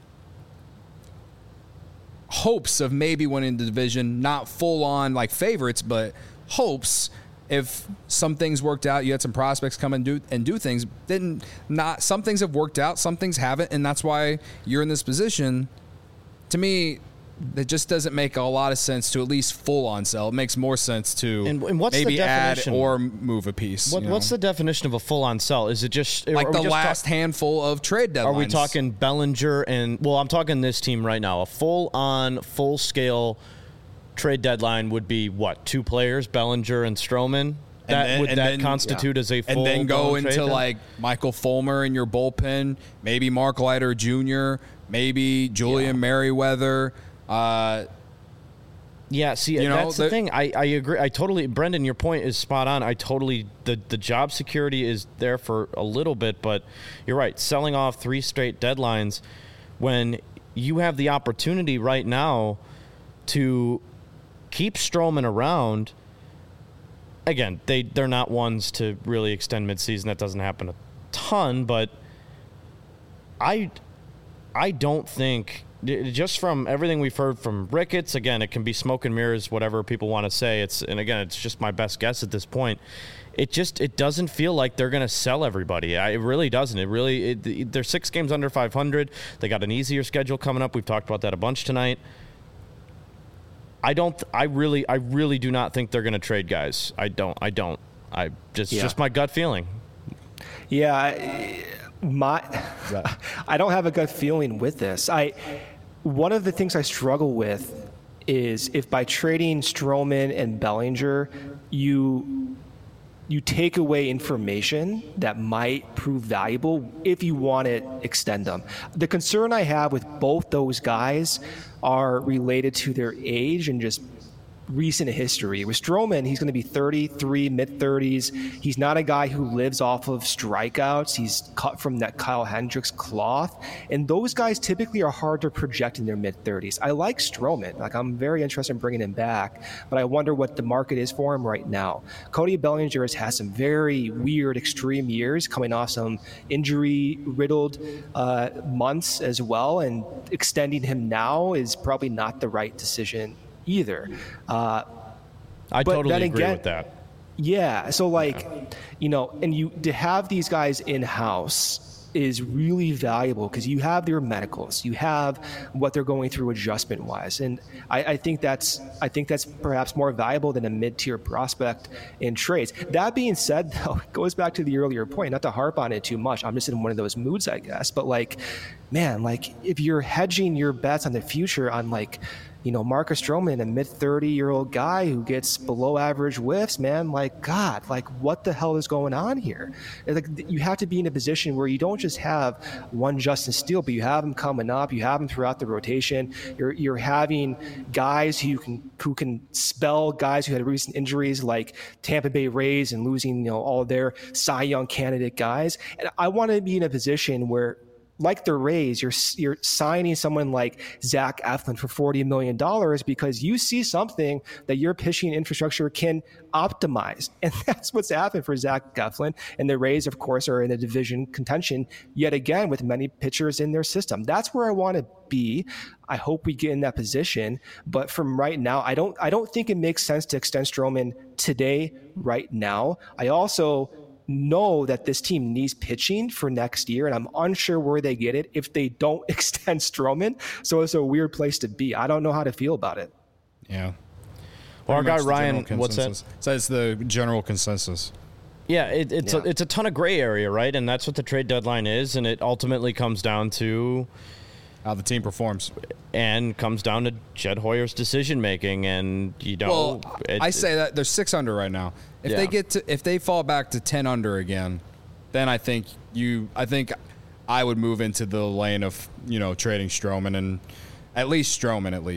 hopes of maybe winning the division, not full-on like favorites, but hopes. If some things worked out, you had some prospects come and do and do things. Didn't not some things have worked out, some things haven't, and that's why you're in this position. To me, it just doesn't make a lot of sense to at least full on sell. It makes more sense to and, and what's maybe the add or move a piece. What, you know? What's the definition of a full on sell? Is it just like the just last talk- handful of trade deadlines? Are we talking Bellinger and well, I'm talking this team right now. A full on, full scale trade deadline would be what? Two players, Bellinger and Stroman. That then, would that then, constitute yeah. as a full and then go into trade like Michael Fulmer in your bullpen, maybe Mark Leiter Junior, maybe Julian yeah. Merriweather. Uh, yeah, see, you know, that's the, the thing. I, I agree. I totally, Brendan, your point is spot on. I totally the the job security is there for a little bit, but you're right. Selling off three straight deadlines when you have the opportunity right now to keep Stroman around. Again, they, they're not ones to really extend midseason. That doesn't happen a ton, but I I don't think, just from everything we've heard from Ricketts, again, it can be smoke and mirrors, whatever people want to say. It's and again, it's just my best guess at this point. It just it doesn't feel like they're going to sell everybody. I, it really doesn't. It really it, they're six games under five hundred. They got an easier schedule coming up. We've talked about that a bunch tonight. I don't. I really. I really do not think they're going to trade guys. I don't. I don't. I just. Yeah. Just my gut feeling. Yeah, my. I don't have a gut feeling with this. I. One of the things I struggle with is if by trading Stroman and Bellinger, you you take away information that might prove valuable if you want to extend them. The concern I have with both those guys are related to their age and just recent history. With Stroman, he's going to be thirty-three, mid-thirties. He's not a guy who lives off of strikeouts. He's cut from that Kyle Hendricks cloth. And those guys typically are hard to project in their mid-thirties. I like Stroman. Like, I'm very interested in bringing him back, but I wonder what the market is for him right now. Cody Bellinger has had some very weird, extreme years, coming off some injury-riddled uh, months as well, and extending him now is probably not the right decision either. Uh, I totally agree again, with that. Yeah. So like, yeah. you know, and you to have these guys in-house is really valuable because you have their medicals, you have what they're going through adjustment wise. And I, I think that's, I think that's perhaps more valuable than a mid-tier prospect in trades. That being said, though, it goes back to the earlier point, not to harp on it too much. I'm just in one of those moods, I guess, but like, man, like if you're hedging your bets on the future on like, you know, Marcus Stroman, a mid thirty-year-old guy who gets below average whiffs, man, like, God, like, what the hell is going on here? Like, you have to be in a position where you don't just have one Justin Steele, but you have him coming up, you have him throughout the rotation. You're you're having guys who can who can spell guys who had recent injuries, like Tampa Bay Rays, and losing, you know, all of their Cy Young candidate guys. And I want to be in a position where, like the Rays, you're you're signing someone like Zach Eflin for forty million dollars because you see something that your pitching infrastructure can optimize. And that's what's happened for Zach Eflin. And the Rays, of course, are in a division contention yet again with many pitchers in their system. That's where I want to be. I hope we get in that position. But from right now, I don't I don't think it makes sense to extend Stroman today, right now. I also know that this team needs pitching for next year, and I'm unsure where they get it if they don't extend Stroman. So it's a weird place to be. I don't know how to feel about it. Yeah. Well, our guy Ryan, what's that? So it's the general consensus. Yeah, it, it's yeah. A, it's a ton of gray area, right? And that's what the trade deadline is, and it ultimately comes down to how the team performs, and comes down to Jed Hoyer's decision making. And you don't. Well, it, I say that they're six under right now. If yeah. they get to, if they fall back to ten under again, then I think you, I think I would move into the lane of, you know, trading Stroman, and at least Stroman at least.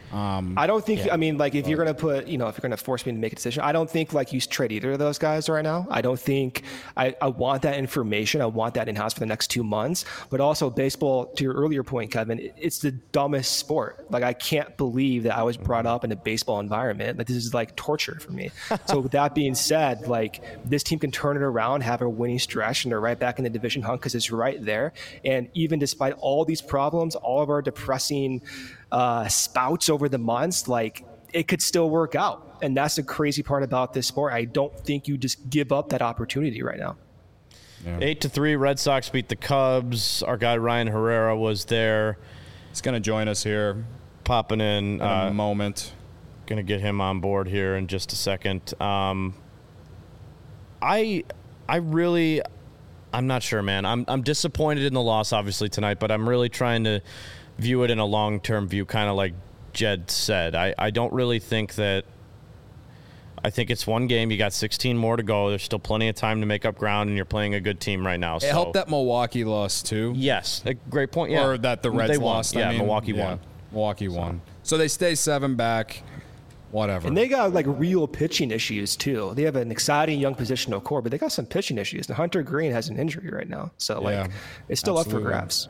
Um, I don't think, yeah. I mean, like if you're going to put, you know, if you're going to force me to make a decision, I don't think like you trade either of those guys right now. I don't think I, I want that information. I want that in-house for the next two months. But also baseball, to your earlier point, Kevin, it's the dumbest sport. Like I can't believe that I was brought up in a baseball environment. Like this is like torture for me. So with that being said, like this team can turn it around, have a winning stretch, and they're right back in the division hunt because it's right there. And even despite all these problems, all of our depressing uh, spouts over the months, like it could still work out. And that's the crazy part about this sport. I don't think you just give up that opportunity right now. Yeah. Eight to three, Red Sox beat the Cubs. Our guy Ryan Herrera was there. He's going to join us here, popping in, in uh, a moment. Going to get him on board here in just a second. Um, I, I really, I'm not sure, man. I'm, I'm disappointed in the loss, obviously tonight, but I'm really trying to view it in a long-term view, kind of like Jed said. I, I don't really think that I think it's one game. You got sixteen more to go. There's still plenty of time to make up ground, and you're playing a good team right now. It so. helped that Milwaukee lost, too. Yes, a great point, yeah. Or that the Reds they won. lost. Yeah, I mean, Milwaukee yeah, won. Milwaukee won. So they stay seven back, whatever. And they got like real pitching issues, too. They have an exciting young positional core, but they got some pitching issues. And Hunter Green has an injury right now. So, like, yeah, it's still absolutely. up for grabs.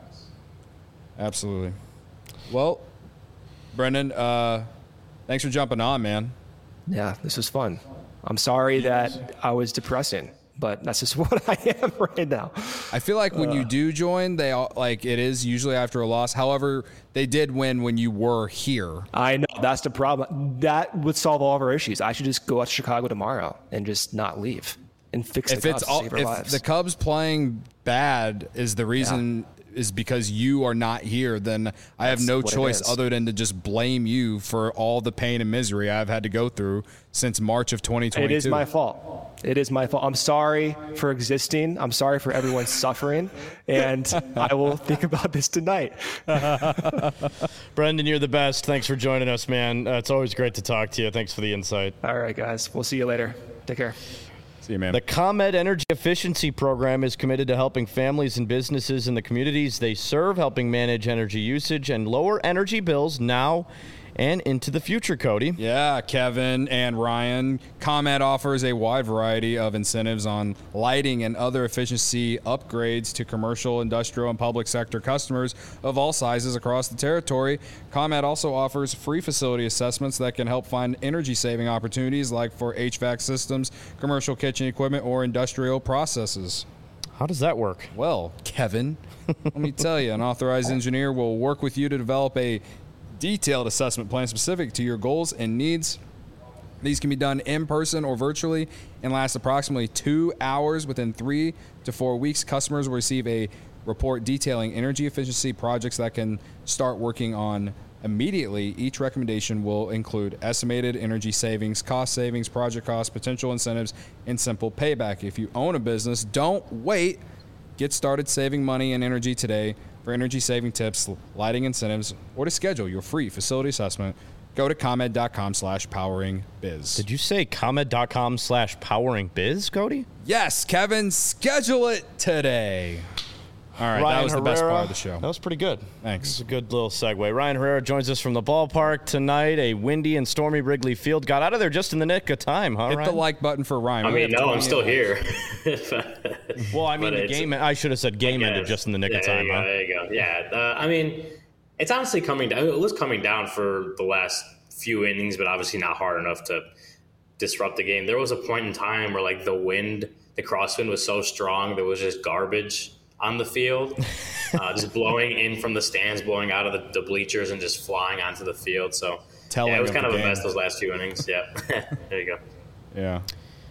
Absolutely. Well, Brendan, uh, thanks for jumping on, man. Yeah, this was fun. I'm sorry that I was depressing, but that's just what I am right now. I feel like when uh, you do join, they all, like it is usually after a loss. However, they did win when you were here. I know that's the problem. That would solve all of our issues. I should just go out to Chicago tomorrow and just not leave and fix if the it's Cubs all, to save our if lives. the Cubs playing bad is the reason. Yeah. Is because you are not here, then I have That's no choice is. other than to just blame you for all the pain and misery I've had to go through since March of twenty twenty-two. It is my fault. It is my fault. I'm sorry for existing. I'm sorry for everyone suffering, and I will think about this tonight. Brendan, you're the best. Thanks for joining us, man. Uh, it's always great to talk to you. Thanks for the insight. All right, guys. We'll see you later. Take care. See you, man. The ComEd Energy Efficiency Program is committed to helping families and businesses in the communities they serve, helping manage energy usage and lower energy bills now and into the future, Cody. Yeah, Kevin and Ryan. ComEd offers a wide variety of incentives on lighting and other efficiency upgrades to commercial, industrial, and public sector customers of all sizes across the territory. ComEd also offers free facility assessments that can help find energy-saving opportunities like for H V A C systems, commercial kitchen equipment, or industrial processes. How does that work? Well, Kevin, let me tell you, an authorized engineer will work with you to develop a detailed assessment plan specific to your goals and needs. These can be done in person or virtually and last approximately two hours. Within three to four weeks, customers will receive a report detailing energy efficiency projects that can start working on immediately. Each recommendation will include estimated energy savings, cost savings, project costs, potential incentives, and simple payback. If you own a business, don't wait. Get started saving money and energy today. For energy saving tips, lighting incentives, or to schedule your free facility assessment, go to ComEd.com slash powering biz. Did you say ComEd.com slash powering biz, Cody? Yes, Kevin, schedule it today. All right, Ryan that was Herrera, the best part of the show. That was pretty good. Thanks. It's a good little segue. Ryan Herrera joins us from the ballpark tonight. A windy and stormy Wrigley Field. Got out of there just in the nick of time, huh, Hit Ryan? the like button for Ryan. I We mean, have no, I'm still minutes. here. Well, I mean, But the it's- game. I should have said game Yeah, ended just in the nick yeah, of time, there you huh? go, there you go. Yeah, uh, I mean, it's honestly coming down. It was coming down for the last few innings, but obviously not hard enough to disrupt the game. There was a point in time where, like, the wind, the crosswind was so strong, there was just garbage on the field, uh, just blowing in from the stands, blowing out of the, the bleachers, and just flying onto the field. So, Telling yeah, it was of kind the of a game. mess those last few innings. Yeah, there you go. Yeah.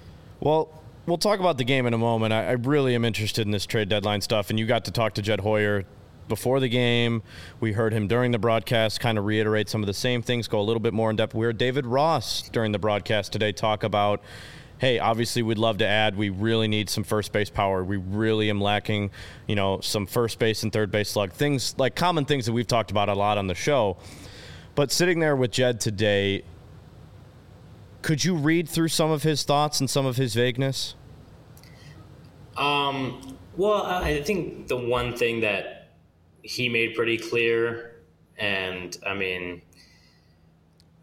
Well, we'll talk about the game in a moment. I, I really am interested in this trade deadline stuff, and you got to talk to Jed Hoyer before the game. We heard him during the broadcast kind of reiterate some of the same things, go a little bit more in depth. We heard David Ross during the broadcast today talk about, hey, obviously we'd love to add. We really need some first base power. We really am lacking, you know, some first base and third base slug. Things like common things that we've talked about a lot on the show. But sitting there with Jed today, could you read through some of his thoughts and some of his vagueness? Um, well, I think the one thing that he made pretty clear, and I mean,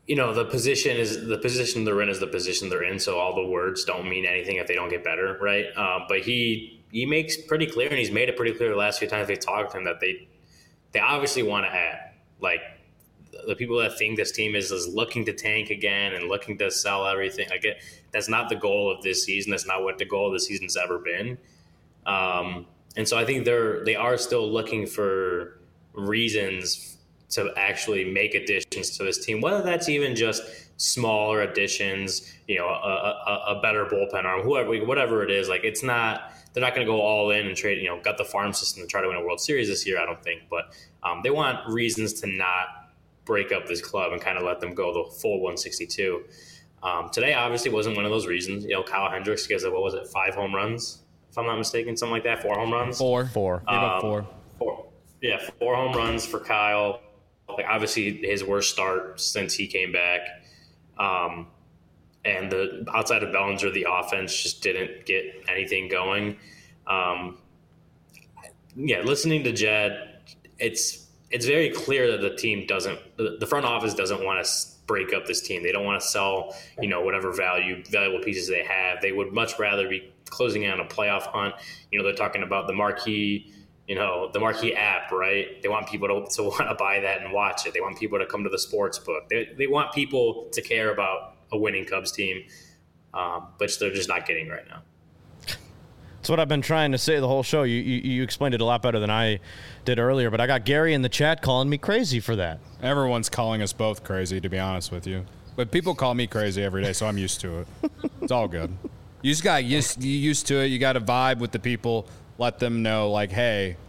you know, the position is the position they're in is the position they're in. So all the words don't mean anything if they don't get better, right? Um, but he he makes pretty clear, and he's made it pretty clear the last few times they've talked to him that they they obviously want to add. Like the people that think this team is, is looking to tank again and looking to sell everything, like it, that's not the goal of this season. That's not what the goal of the season's ever been. Um, and so I think they're they are still looking for reasons to actually make additions to this team, whether that's even just smaller additions, you know, a, a, a better bullpen arm, whoever, whatever it is. Like, it's not, they're not going to go all in and trade, you know, gut the farm system to try to win a World Series this year, I don't think. But um, they want reasons to not break up this club and kind of let them go the full one sixty-two. Um, today, obviously, wasn't one of those reasons. You know, Kyle Hendricks gives it, what was it, five home runs, if I'm not mistaken, something like that, four home runs? Four. Four. Gave up four. Um, four. Yeah, four home runs for Kyle. Like, obviously his worst start since he came back. Um, and the outside of Bellinger, the offense just didn't get anything going. Um, yeah, listening to Jed, it's it's very clear that the team doesn't, the front office doesn't want to break up this team. They don't want to sell, you know, whatever value, valuable pieces they have. They would much rather be closing in on a playoff hunt. You know, they're talking about the marquee, you know, the marquee app, right? They want people to, to want to buy that and watch it. They want people to come to the sports book. They, they want people to care about a winning Cubs team, um, which they're just not getting right now. That's what I've been trying to say the whole show. You, you you explained it a lot better than I did earlier, but I got Gary in the chat calling me crazy for that. Everyone's calling us both crazy, to be honest with you. But people call me crazy every day, so I'm used to it. It's all good. You just got used, you used to it. You got to vibe with the people. Let them know, like, hey,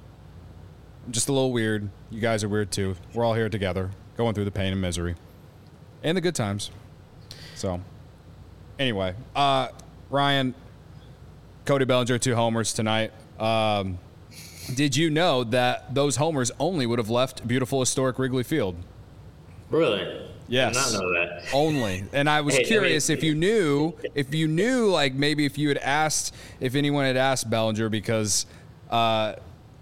I'm just a little weird. You guys are weird, too. We're all here together, going through the pain and misery. And the good times. So, anyway, uh, Ryan, Cody Bellinger, two homers tonight. Um, did you know that those homers only would have left beautiful, historic Wrigley Field? Really? Yes. I did not know that. Only. And I was Hey, curious I mean, if you knew, if you knew, like maybe if you had asked, if anyone had asked Bellinger, because uh,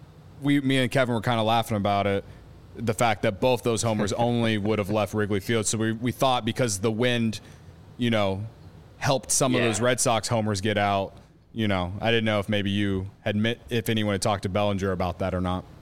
we, me and Kevin were kind of laughing about it, the fact that both those homers only would have left Wrigley Field. So we, we thought because the wind, you know, helped some Yeah. of those Red Sox homers get out. You know, I didn't know if maybe you had met, if anyone had talked to Bellinger about that or not.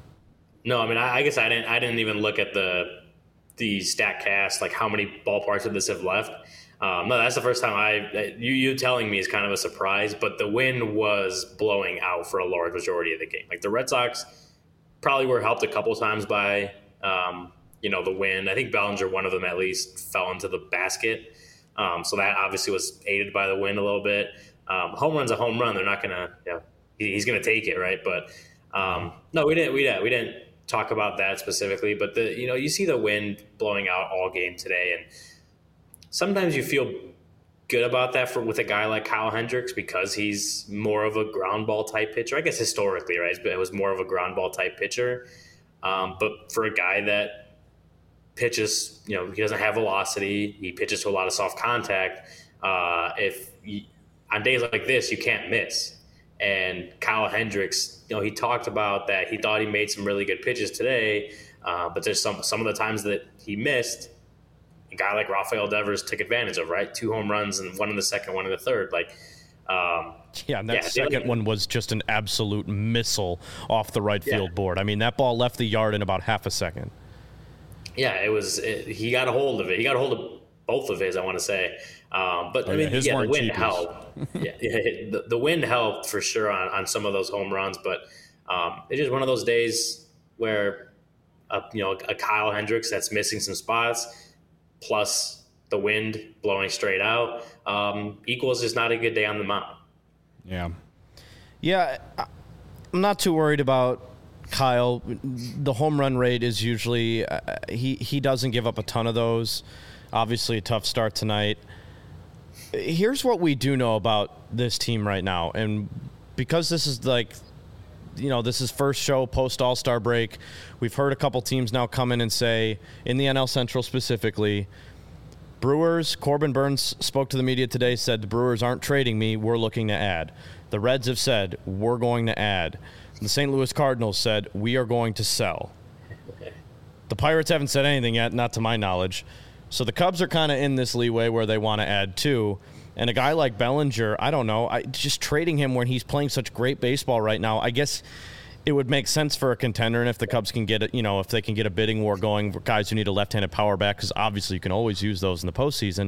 No, I mean, I, I guess I didn't. I didn't even look at the the StatCast, like how many ballparks of this have left. Um, no, that's the first time I. You you telling me is kind of a surprise, but the wind was blowing out for a large majority of the game. Like the Red Sox probably were helped a couple times by, um, you know, the wind. I think Bellinger, one of them at least, fell into the basket, um, so that obviously was aided by the wind a little bit. Um, home run's a home run. They're not gonna, you know, he, he's gonna take it, right? But um, no, we didn't. We didn't. We didn't talk about that specifically. But the, you know, you see the wind blowing out all game today, and sometimes you feel good about that for with a guy like Kyle Hendricks because he's more of a ground ball type pitcher. I guess historically, right? It was more of a ground ball type pitcher. Um, but for a guy that pitches, you know, he doesn't have velocity. He pitches to a lot of soft contact. Uh, if you, on days like this, you can't miss. And Kyle Hendricks, you know, he talked about that. He thought he made some really good pitches today, uh, but there's some some of the times that he missed, a guy like Rafael Devers took advantage of, right? Two home runs and one in the second, one in the third. Like, um, yeah, and that yeah, second like, one was just an absolute missile off the right Yeah. field board. I mean, that ball left the yard in about half a second. Yeah, it was. It, he got a hold of it. He got a hold of both of his, I want to say. Um, but Oh, I yeah, mean, his yeah, the weren't wind cheapies. helped. yeah, yeah the, the wind helped for sure on, on some of those home runs. But um, it's just one of those days where, uh, you know, a Kyle Hendricks that's missing some spots, plus the wind blowing straight out, um, equals just not a good day on the mound. Yeah. Yeah, I- I'm not too worried about Kyle. The home run rate is usually uh, he he doesn't give up a ton of those. Obviously, a tough start tonight. Here's what we do know about this team right now, and because this is like, you know, this is first show post All-Star break, we've heard a couple teams now come in and say, in the N L Central specifically, Brewers, Corbin Burns spoke to the media today, said the Brewers aren't trading me, we're looking to add. The Reds have said, we're going to add. The Saint Louis Cardinals said, we are going to sell. The Pirates haven't said anything yet, not to my knowledge. So the Cubs are kind of in this leeway where they want to add two. And a guy like Bellinger, I don't know, I, just trading him when he's playing such great baseball right now, I guess it would make sense for a contender. And if the Cubs can get it, you know, if they can get a bidding war going for guys who need a left-handed power bat, because obviously you can always use those in the postseason.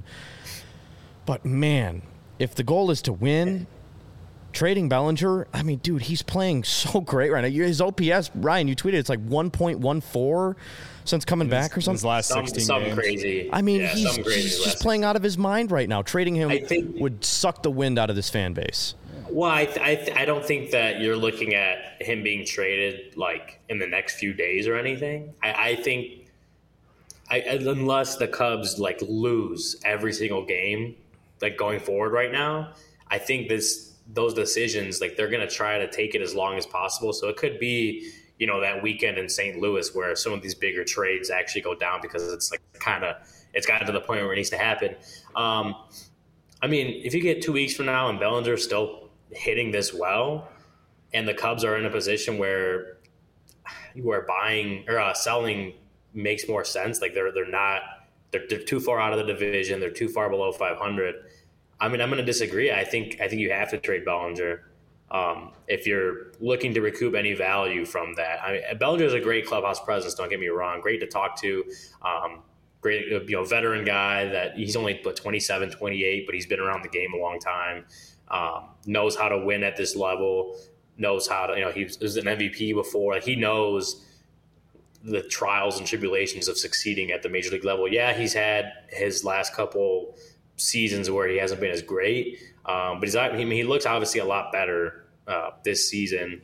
But, man, if the goal is to win, trading Bellinger, I mean, dude, he's playing so great right now. His O P S, Ryan, you tweeted it's like one point one four since coming back or something. His last sixteen some, games. Something crazy. I mean, yeah, he's, crazy he's just playing out of his mind right now. Trading him think, would suck the wind out of this fan base. Well, I, th- I, th- I don't think that you're looking at him being traded like in the next few days or anything. I, I think I, unless the Cubs like lose every single game, like going forward right now, I think this those decisions, like they're going to try to take it as long as possible. So it could be, you know, that weekend in Saint Louis where some of these bigger trades actually go down because it's like kind of it's gotten to the point where it needs to happen. Um, I mean, if you get two weeks from now and Bellinger's still hitting this well, and the Cubs are in a position where you are buying or uh, selling makes more sense. Like they're they're not they're, they're too far out of the division. They're too far below five hundred. I mean, I'm going to disagree. I think I think you have to trade Bellinger um, if you're looking to recoup any value from that. I mean, Bellinger is a great clubhouse presence. Don't get me wrong. Great to talk to. Um, great, you know, veteran guy that he's only but twenty-seven, twenty-eight, but he's been around the game a long time. Um, knows how to win at this level. Knows how to, you know, he was, was an M V P before. Like, he knows the trials and tribulations of succeeding at the major league level. Yeah, he's had his last couple seasons where he hasn't been as great, um, but he's I mean, he looks obviously a lot better uh, this season.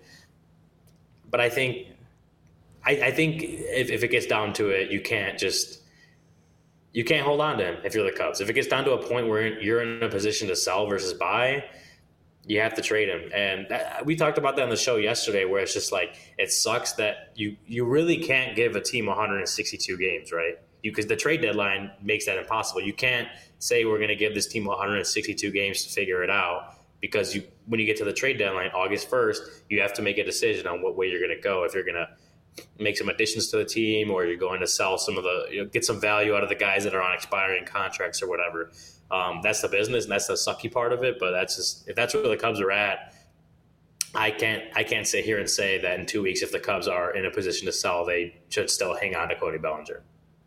But I think, I, I think if, if it gets down to it, you can't just you can't hold on to him if you're the Cubs. If it gets down to a point where you're in a position to sell versus buy, you have to trade him. And that, we talked about that on the show yesterday, where it's just like it sucks that you you really can't give a team one hundred sixty-two games, right? You because the trade deadline makes that impossible. You can't say we're going to give this team one hundred sixty-two games to figure it out, because you when you get to the trade deadline, August first, you have to make a decision on what way you're going to go. If you're going to make some additions to the team, or you're going to sell some of the, you know, get some value out of the guys that are on expiring contracts or whatever. Um, that's the business, and that's the sucky part of it. But that's just, if that's where the Cubs are at, I can't I can't sit here and say that in two weeks, if the Cubs are in a position to sell, they should still hang on to Cody Bellinger.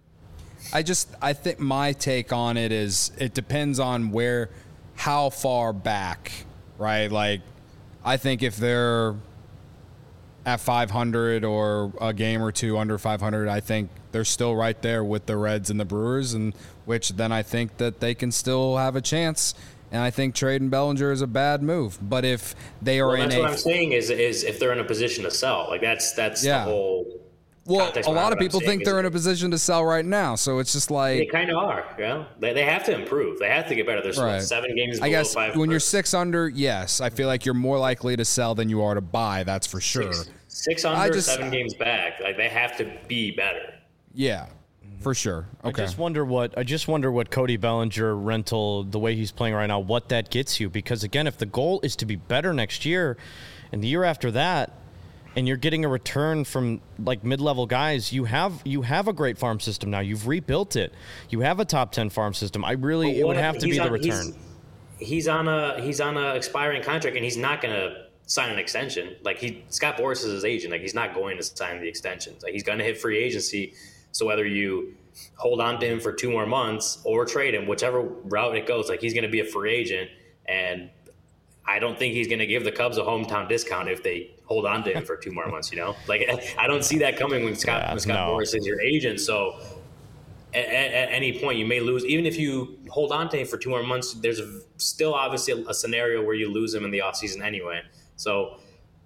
I just, I think my take on it is it depends on where, how far back, right? Like, I think if they're at five hundred or a game or two under five hundred, I think they're still right there with the Reds and the Brewers, and which then I think that they can still have a chance. And I think trading Bellinger is a bad move. But if they are well, in that's a, what I'm saying is is if they're in a position to sell, like that's that's yeah. the whole. Well, a lot of people think they're in a position to sell right now, so it's just like they kind of are. Yeah, you know? they they have to improve. They have to get better. There's right. seven games. Below I guess five when you're six under, yes, I feel like you're more likely to sell than you are to buy. That's for sure. Six, six under, just, seven games back. Like they have to be better. Yeah, for sure. Okay. I just wonder what I just wonder what Cody Bellinger rental, the way he's playing right now, what that gets you. Because again, if the goal is to be better next year, and the year after that, and you're getting a return from like mid-level guys, you have you have a great farm system now. You've rebuilt it. You have a top ten farm system. I really well, it would have to be on, the return. He's, he's on a he's on a expiring contract, and he's not going to sign an extension. Like he Scott Boras is his agent. Like he's not going to sign the extensions. Like he's going to hit free agency. So whether you hold on to him for two more months or trade him, whichever route it goes, like he's going to be a free agent, and I don't think he's going to give the Cubs a hometown discount if they hold on to him for two more months, you know? Like, I don't see that coming when Scott, yeah, when Scott no. Boras is your agent. So at, at any point you may lose. Even if you hold on to him for two more months, there's still obviously a, a scenario where you lose him in the offseason anyway. So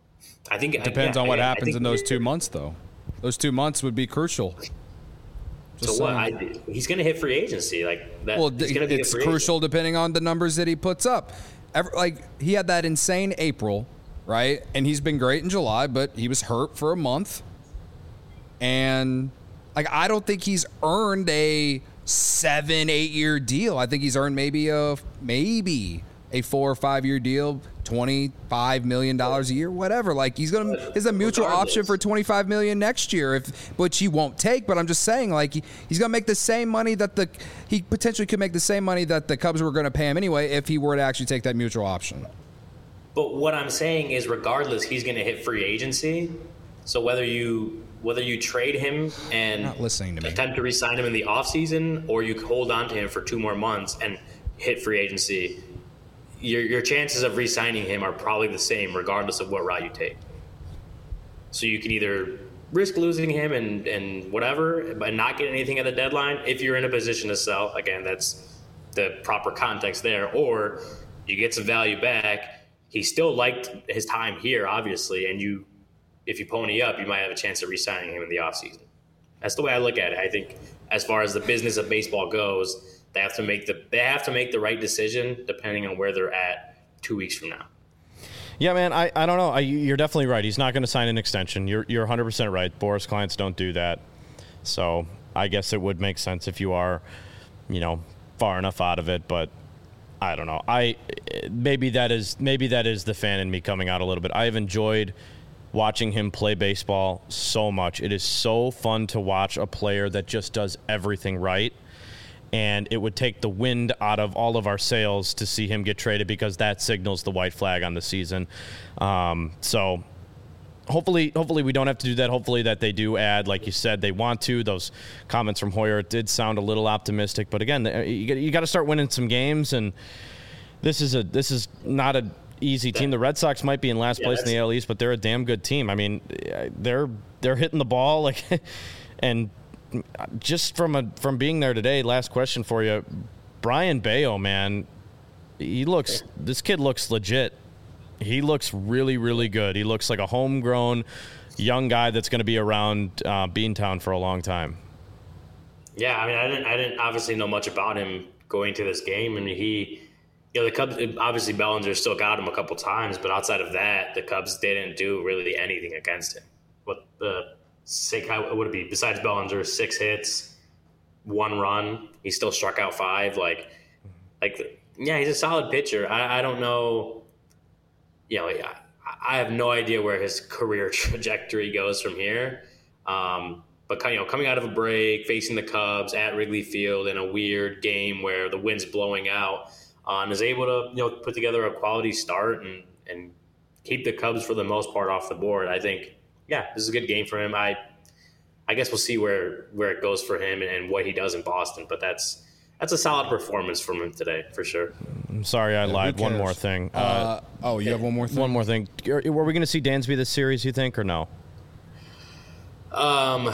I think it depends yeah, on what I, happens I in those two months, though. Those two months would be crucial. Just so what? I, he's going to hit free agency. Like that. Well, he's gonna be it's crucial agent. Depending on the numbers that he puts up. Ever, like he had that insane April, right? And he's been great in July, but he was hurt for a month. And like I don't think he's earned a seven, eight year deal. I think he's earned maybe a maybe a four or five year deal, twenty-five million dollars a year, whatever. Like he's going to, is a mutual Regardless. option for twenty-five million dollars next year, if which he won't take. But I'm just saying, like he, he's going to make the same money that the, he potentially could make the same money that the Cubs were going to pay him anyway if he were to actually take that mutual option. But what I'm saying is, regardless, he's going to hit free agency. So whether you whether you trade him and Not listening to me. attempt to re-sign him in the offseason, or you hold on to him for two more months and hit free agency, your your chances of re-signing him are probably the same regardless of what route you take. So you can either risk losing him and, and whatever, but not get anything at the deadline if you're in a position to sell. Again, that's the proper context there. Or you get some value back. He still liked his time here, obviously, and you, if you pony up, you might have a chance of re-signing him in the offseason. That's the way I look at it. I think as far as the business of baseball goes, They have to make the they have to make the right decision depending on where they're at two weeks from now. Yeah, man, I, I don't know. I, you're definitely right. He's not going to sign an extension. You're you're one hundred percent right. Boras clients don't do that. So I guess it would make sense if you are, you know, far enough out of it. But I don't know. I maybe that is maybe that is the fan in me coming out a little bit. I have enjoyed watching him play baseball so much. It is so fun to watch a player that just does everything right. And it would take the wind out of all of our sails to see him get traded, because that signals the white flag on the season. Um, so hopefully, hopefully we don't have to do that. Hopefully that they do add, like you said, they want to. Those comments from Hoyer did sound a little optimistic, but again, you, you got to start winning some games. And this is a this is not an easy team. The Red Sox might be in last Yeah, place in the A L East, but they're a damn good team. I mean, they're they're hitting the ball like and. Just from a from being there today, last question for you, Brayan Bello, man, he looks this kid looks legit. He looks really, really good. He looks like a homegrown young guy that's going to be around uh, Beantown for a long time. Yeah, I mean, I didn't I didn't obviously know much about him going to this game. I mean, he, you know, the Cubs obviously Bellinger still got him a couple times, but outside of that, the Cubs didn't do really anything against him. What the Six, how would it be? Besides Bellinger, six hits, one run. He still struck out five. Like, like, yeah, he's a solid pitcher. I, I don't know. You know, I, I have no idea where his career trajectory goes from here. Um, but you know, coming out of a break, facing the Cubs at Wrigley Field in a weird game where the wind's blowing out, uh, and is able to you know put together a quality start and and keep the Cubs for the most part off the board. I think. Yeah, this is a good game for him. I I guess we'll see where, where it goes for him and, and what he does in Boston. But that's that's a solid performance from him today, for sure. I'm sorry I Yeah, lied. who One cares? more thing. Uh, Uh, oh, you have one more thing? one more thing. Were we going to see Dansby this series, you think, or no? Um,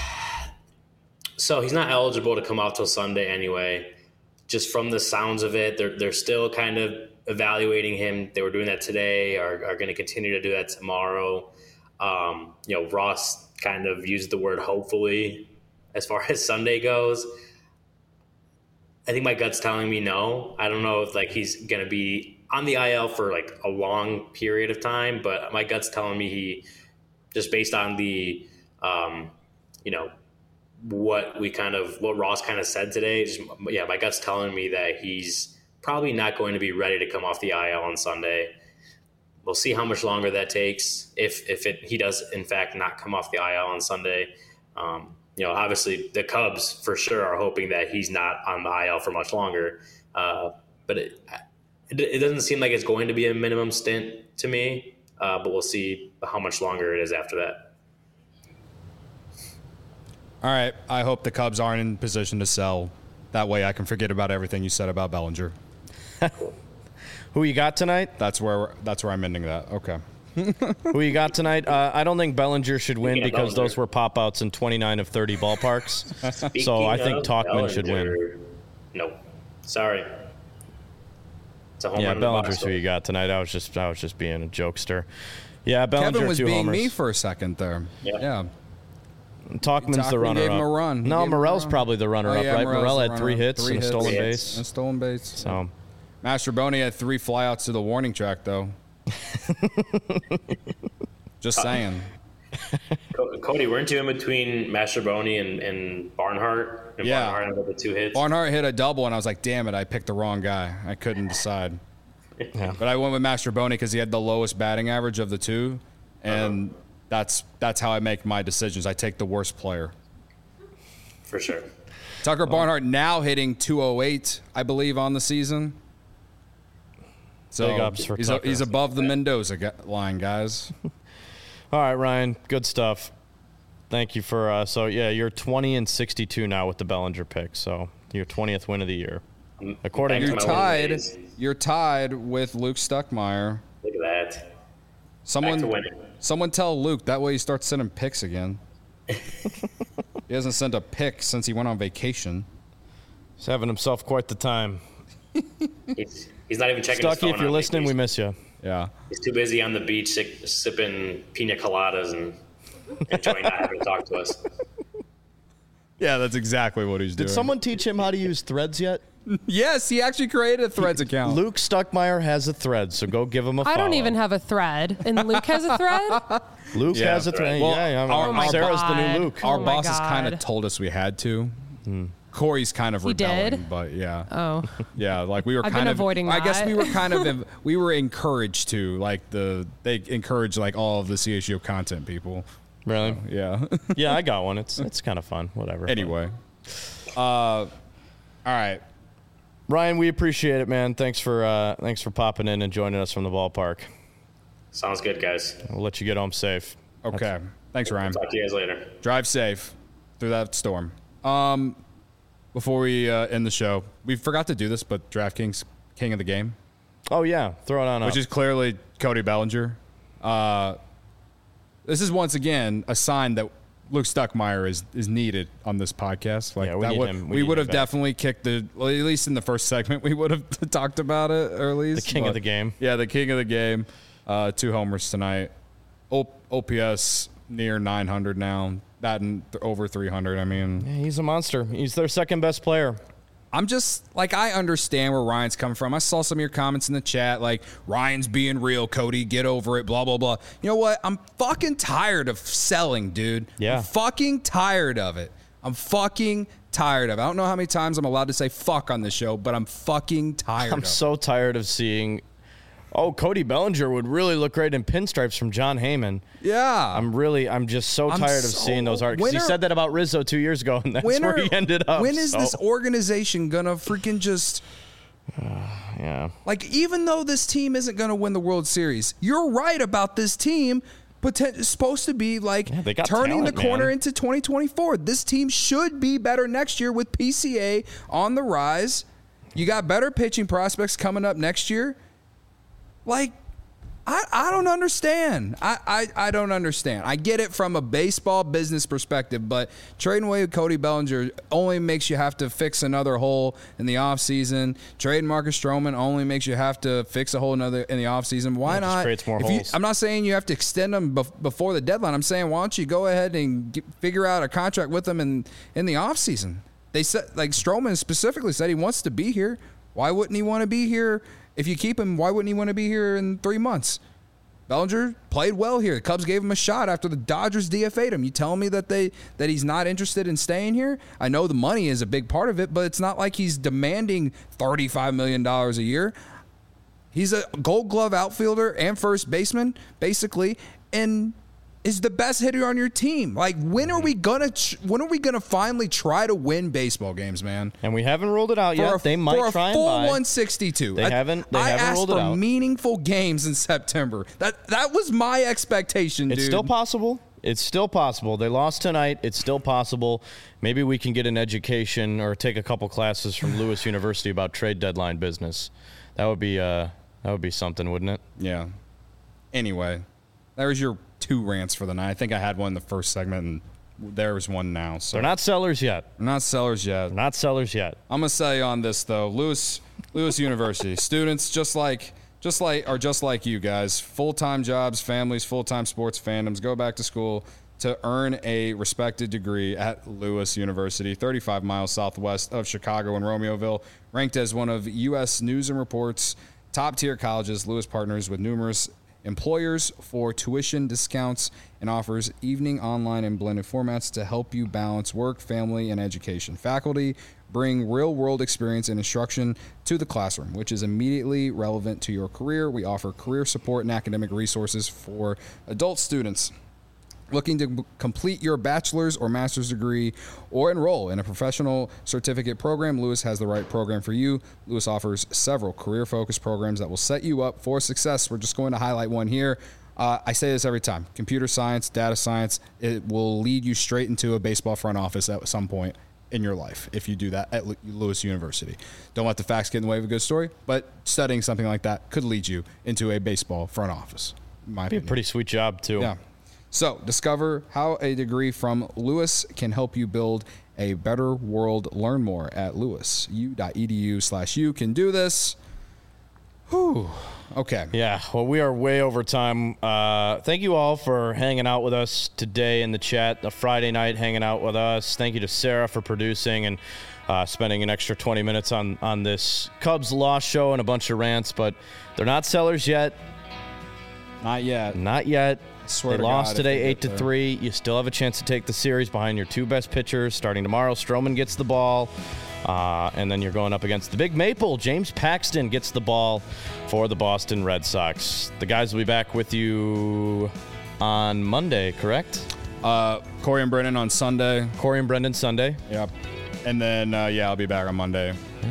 so he's not eligible to come out till Sunday anyway. Just from the sounds of it, they're they're still kind of evaluating him. They were doing that today, are are going to continue to do that tomorrow. Um, you know, Ross kind of used the word hopefully as far as Sunday goes. I think my gut's telling me no. I don't know if like he's going to be on the I L for like a long period of time, but my gut's telling me he, just based on the, um, you know, what we kind of, what Ross kind of said today, just, yeah, my gut's telling me that he's probably not going to be ready to come off the I L on Sunday. We'll see how much longer that takes. If if it he does in fact not come off the I L on Sunday, um, you know, obviously the Cubs for sure are hoping that he's not on the I L for much longer. Uh, but it, it it doesn't seem like it's going to be a minimum stint to me. Uh, but we'll see how much longer it is after that. All right. I hope the Cubs aren't in position to sell. That way I can forget about everything you said about Bellinger. Who you got tonight? That's where we're, that's where I'm ending that. Okay. Who you got tonight? Uh, I don't think Bellinger should win Speaking of because those Bellinger. were pop-outs in twenty-nine of thirty ballparks. so Speaking I think of Tauchman should win. Bellinger- No, sorry. It's a home Yeah, run in the Bellinger's box who you got tonight. I was just I was just being a jokester. Yeah, Bellinger Kevin was two being homers. me for a second there. Yeah. Yeah. Talkman's the Tauchman runner gave him up. a run. He No, gave him a Morel's run. probably the runner Oh, up, yeah, right? Morel's Morel the had runner three up. hits Three and a hits. stolen Three base. hits. And stolen base. So Mastroboni had three flyouts to the warning track, though. Just saying. Co- Cody, weren't you in between Mastroboni and, and Barnhart? And Yeah. Barnhart had the two hits. Barnhart hit a double, and I was like, damn it, I picked the wrong guy. I couldn't decide. Yeah. But I went with Mastrobuoni because he had the lowest batting average of the two, and uh-huh. that's that's how I make my decisions. I take the worst player. For sure. Tucker Barnhart now hitting two oh eight, I believe, on the season. So Big ups for he's, a, Tucker. he's above the Mendoza line, guys. All right, Ryan, good stuff. Thank you for uh, so yeah, you're twenty and sixty-two now with the Bellinger pick. So your twentieth win of the year. According you're to tied, you're tied with Luke Stuckmeyer. Look at that. Someone, someone tell Luke that way he starts sending picks again. He hasn't sent a pic since he went on vacation. He's having himself quite the time. he's, he's not even checking Stucky, his phone if you're listening, vacation. we miss you. Yeah. He's too busy on the beach sick, sipping pina coladas and enjoying not having to talk to us. Yeah, that's exactly what he's doing. Did someone teach him how to use Threads yet? Yes, he actually created a Threads account. Luke Stuckmeyer has a Thread, so go give him a follow. I don't even have a thread. And Luke has a thread? Luke yeah. has a thread. Well, yeah, yeah. Our, oh my Sarah's God. the new Luke. Our Oh my bosses kind of God. told us we had to. Hmm. Corey's kind of He rebelling, did? but yeah. Oh. Yeah, like we were I've kind been of avoiding I guess that. we were kind of we were encouraged to, like the they encourage like all of the C H G O content people. Really? Yeah. Yeah, I got one. It's it's kind of fun. Whatever. Anyway. Uh all right. Ryan, we appreciate it, man. Thanks for uh, thanks for popping in and joining us from the ballpark. Sounds good, guys. We'll let you get home safe. Okay. That's- Thanks, Ryan. Talk to you guys later. Drive safe through that storm. Um Before we uh, end the show, we forgot to do this, but DraftKings King of the Game, Oh yeah, throw it on up. which is clearly Cody Bellinger. Uh, this is once again a sign that Luke Stuckmeyer is is needed on this podcast. Like Yeah, we that need would, him- we we need would him have back. definitely kicked the well, at least in the first segment we would have talked about it, or at least the king but- of the game. Yeah, the king of the game. Uh, two homers tonight. O- O P S near nine hundred now. That and th- over three hundred. I mean, Yeah, he's a monster. He's their second best player. I'm just like, I understand where Ryan's coming from. I saw some of your comments in the chat, like, Ryan's being real, Cody, get over it, blah, blah, blah. You know what? I'm fucking tired of selling, dude. Yeah. I'm fucking tired of it. I'm fucking tired of it. I don't know how many times I'm allowed to say fuck on this show, but I'm fucking tired I'm of so it. tired of seeing. Oh, Cody Bellinger would really look great in pinstripes from John Heyman. Yeah. I'm really, I'm just so I'm tired of so- seeing those articles. He when are- said that about Rizzo two years ago, and that's When where are- he ended up. When is so, this organization going to freaking just... Yeah. Like, even though this team isn't going to win the World Series, you're right about this team. Poten- supposed to be like Yeah, they got turning talent, the corner man. into twenty twenty-four. This team should be better next year with P C A on the rise. You got better pitching prospects coming up next year. Like, I, I don't understand. I, I, I don't understand. I get it from a baseball business perspective, but trading away with Cody Bellinger only makes you have to fix another hole in the offseason. Trading Marcus Stroman only makes you have to fix a hole another in the offseason. Why Yeah, it just not? creates more if you- holes. I'm not saying you have to extend them bef- before the deadline. I'm saying why don't you go ahead and get, figure out a contract with them in, in the offseason? They said, like Stroman specifically said he wants to be here. Why wouldn't he want to be here? If you keep him, why wouldn't he want to be here in three months? Bellinger played well here. The Cubs gave him a shot after the Dodgers D F A'd him. You telling me that they that he's not interested in staying here? I know the money is a big part of it, but it's not like he's demanding thirty-five million dollars a year. He's a Gold Glove outfielder and first baseman, basically, and is the best hitter on your team. Like, when are we gonna ch- when are we gonna finally try to win baseball games, man? And we haven't ruled it out For yet. a, they might for a try full and buy. one sixty-two. They I, haven't- they I haven't asked ruled it for out. meaningful games in September. That that was my expectation, It's dude. still possible. It's still possible. They lost tonight. It's still possible. Maybe we can get an education or take a couple classes from Lewis University about trade deadline business. That would be uh, that would be something, wouldn't it? Yeah. Anyway, there's your two rants for the night. I think I had one in the first segment, and there's one now. So They're not sellers yet. They're not sellers yet. They're not sellers yet. I'm gonna say on this though, Lewis Lewis University students just like just like are just like you guys, full-time jobs, families, full-time sports fandoms, go back to school to earn a respected degree at Lewis University, thirty-five miles southwest of Chicago and Romeoville, ranked as one of U S News and Report's top-tier colleges. Lewis partners with numerous employers for tuition discounts and offers evening, online, and blended formats to help you balance work, family, and education. Faculty bring real-world experience and instruction to the classroom, which is immediately relevant to your career. We offer career support and academic resources for adult students looking to b- complete your bachelor's or master's degree or enroll in a professional certificate program. Lewis has the right program for you. Lewis offers several career-focused programs that will set you up for success. We're just going to highlight one here. Uh, I say this every time. Computer science, data science, it will lead you straight into a baseball front office at some point in your life if you do that at Lewis University. Don't let the facts get in the way of a good story, but studying something like that could lead you into a baseball front office. In my Be a opinion. pretty sweet job, too. Yeah. So, discover how a degree from Lewis can help you build a better world. Learn more at lewisu.edu slash you can do this. Whew. Okay. Yeah, well, we are way over time. Uh, thank you all for hanging out with us today in the chat, a Friday night hanging out with us. Thank you to Sarah for producing and uh, spending an extra twenty minutes on, on this Cubs loss show and a bunch of rants, but they're not sellers yet. Not yet. Not yet. Swear They to lost God, today if they eight to get there. three. You still have a chance to take the series behind your two best pitchers starting tomorrow. Stroman gets the ball, uh, and then you're going up against the Big Maple. James Paxton gets the ball for the Boston Red Sox. The guys will be back with you on Monday, correct? Uh, Corey and Brennan on Sunday. Corey and Brendan Sunday. Yep. And then, uh, yeah, I'll be back on Monday.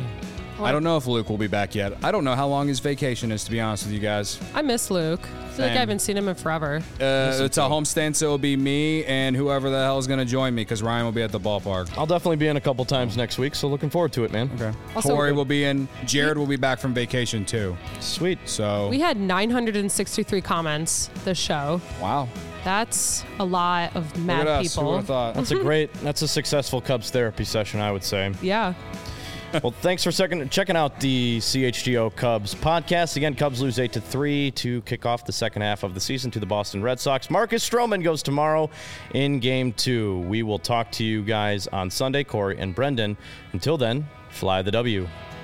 I don't know if Luke will be back yet. I don't know how long his vacation is, to be honest with you guys. I miss Luke. I feel like Same. I haven't seen him in forever. Uh, it's a homestand, so it'll be me and whoever the hell is going to join me because Ryan will be at the ballpark. I'll definitely be in a couple times next week, so looking forward to it, man. Okay. Also- Corey will be in. Jared will be back from vacation, too. Sweet. So, We had nine hundred sixty-three comments this show. wow. That's a lot of Look mad at us. Who people. would have thought? That's a great, that's a successful Cubs therapy session, I would say. Yeah. Well, thanks for second, checking out the C H G O Cubs podcast. Again, Cubs lose eight to three to kick off the second half of the season to the Boston Red Sox. Marcus Stroman goes tomorrow in game two. We will talk to you guys on Sunday, Corey and Brendan. Until then, fly the W.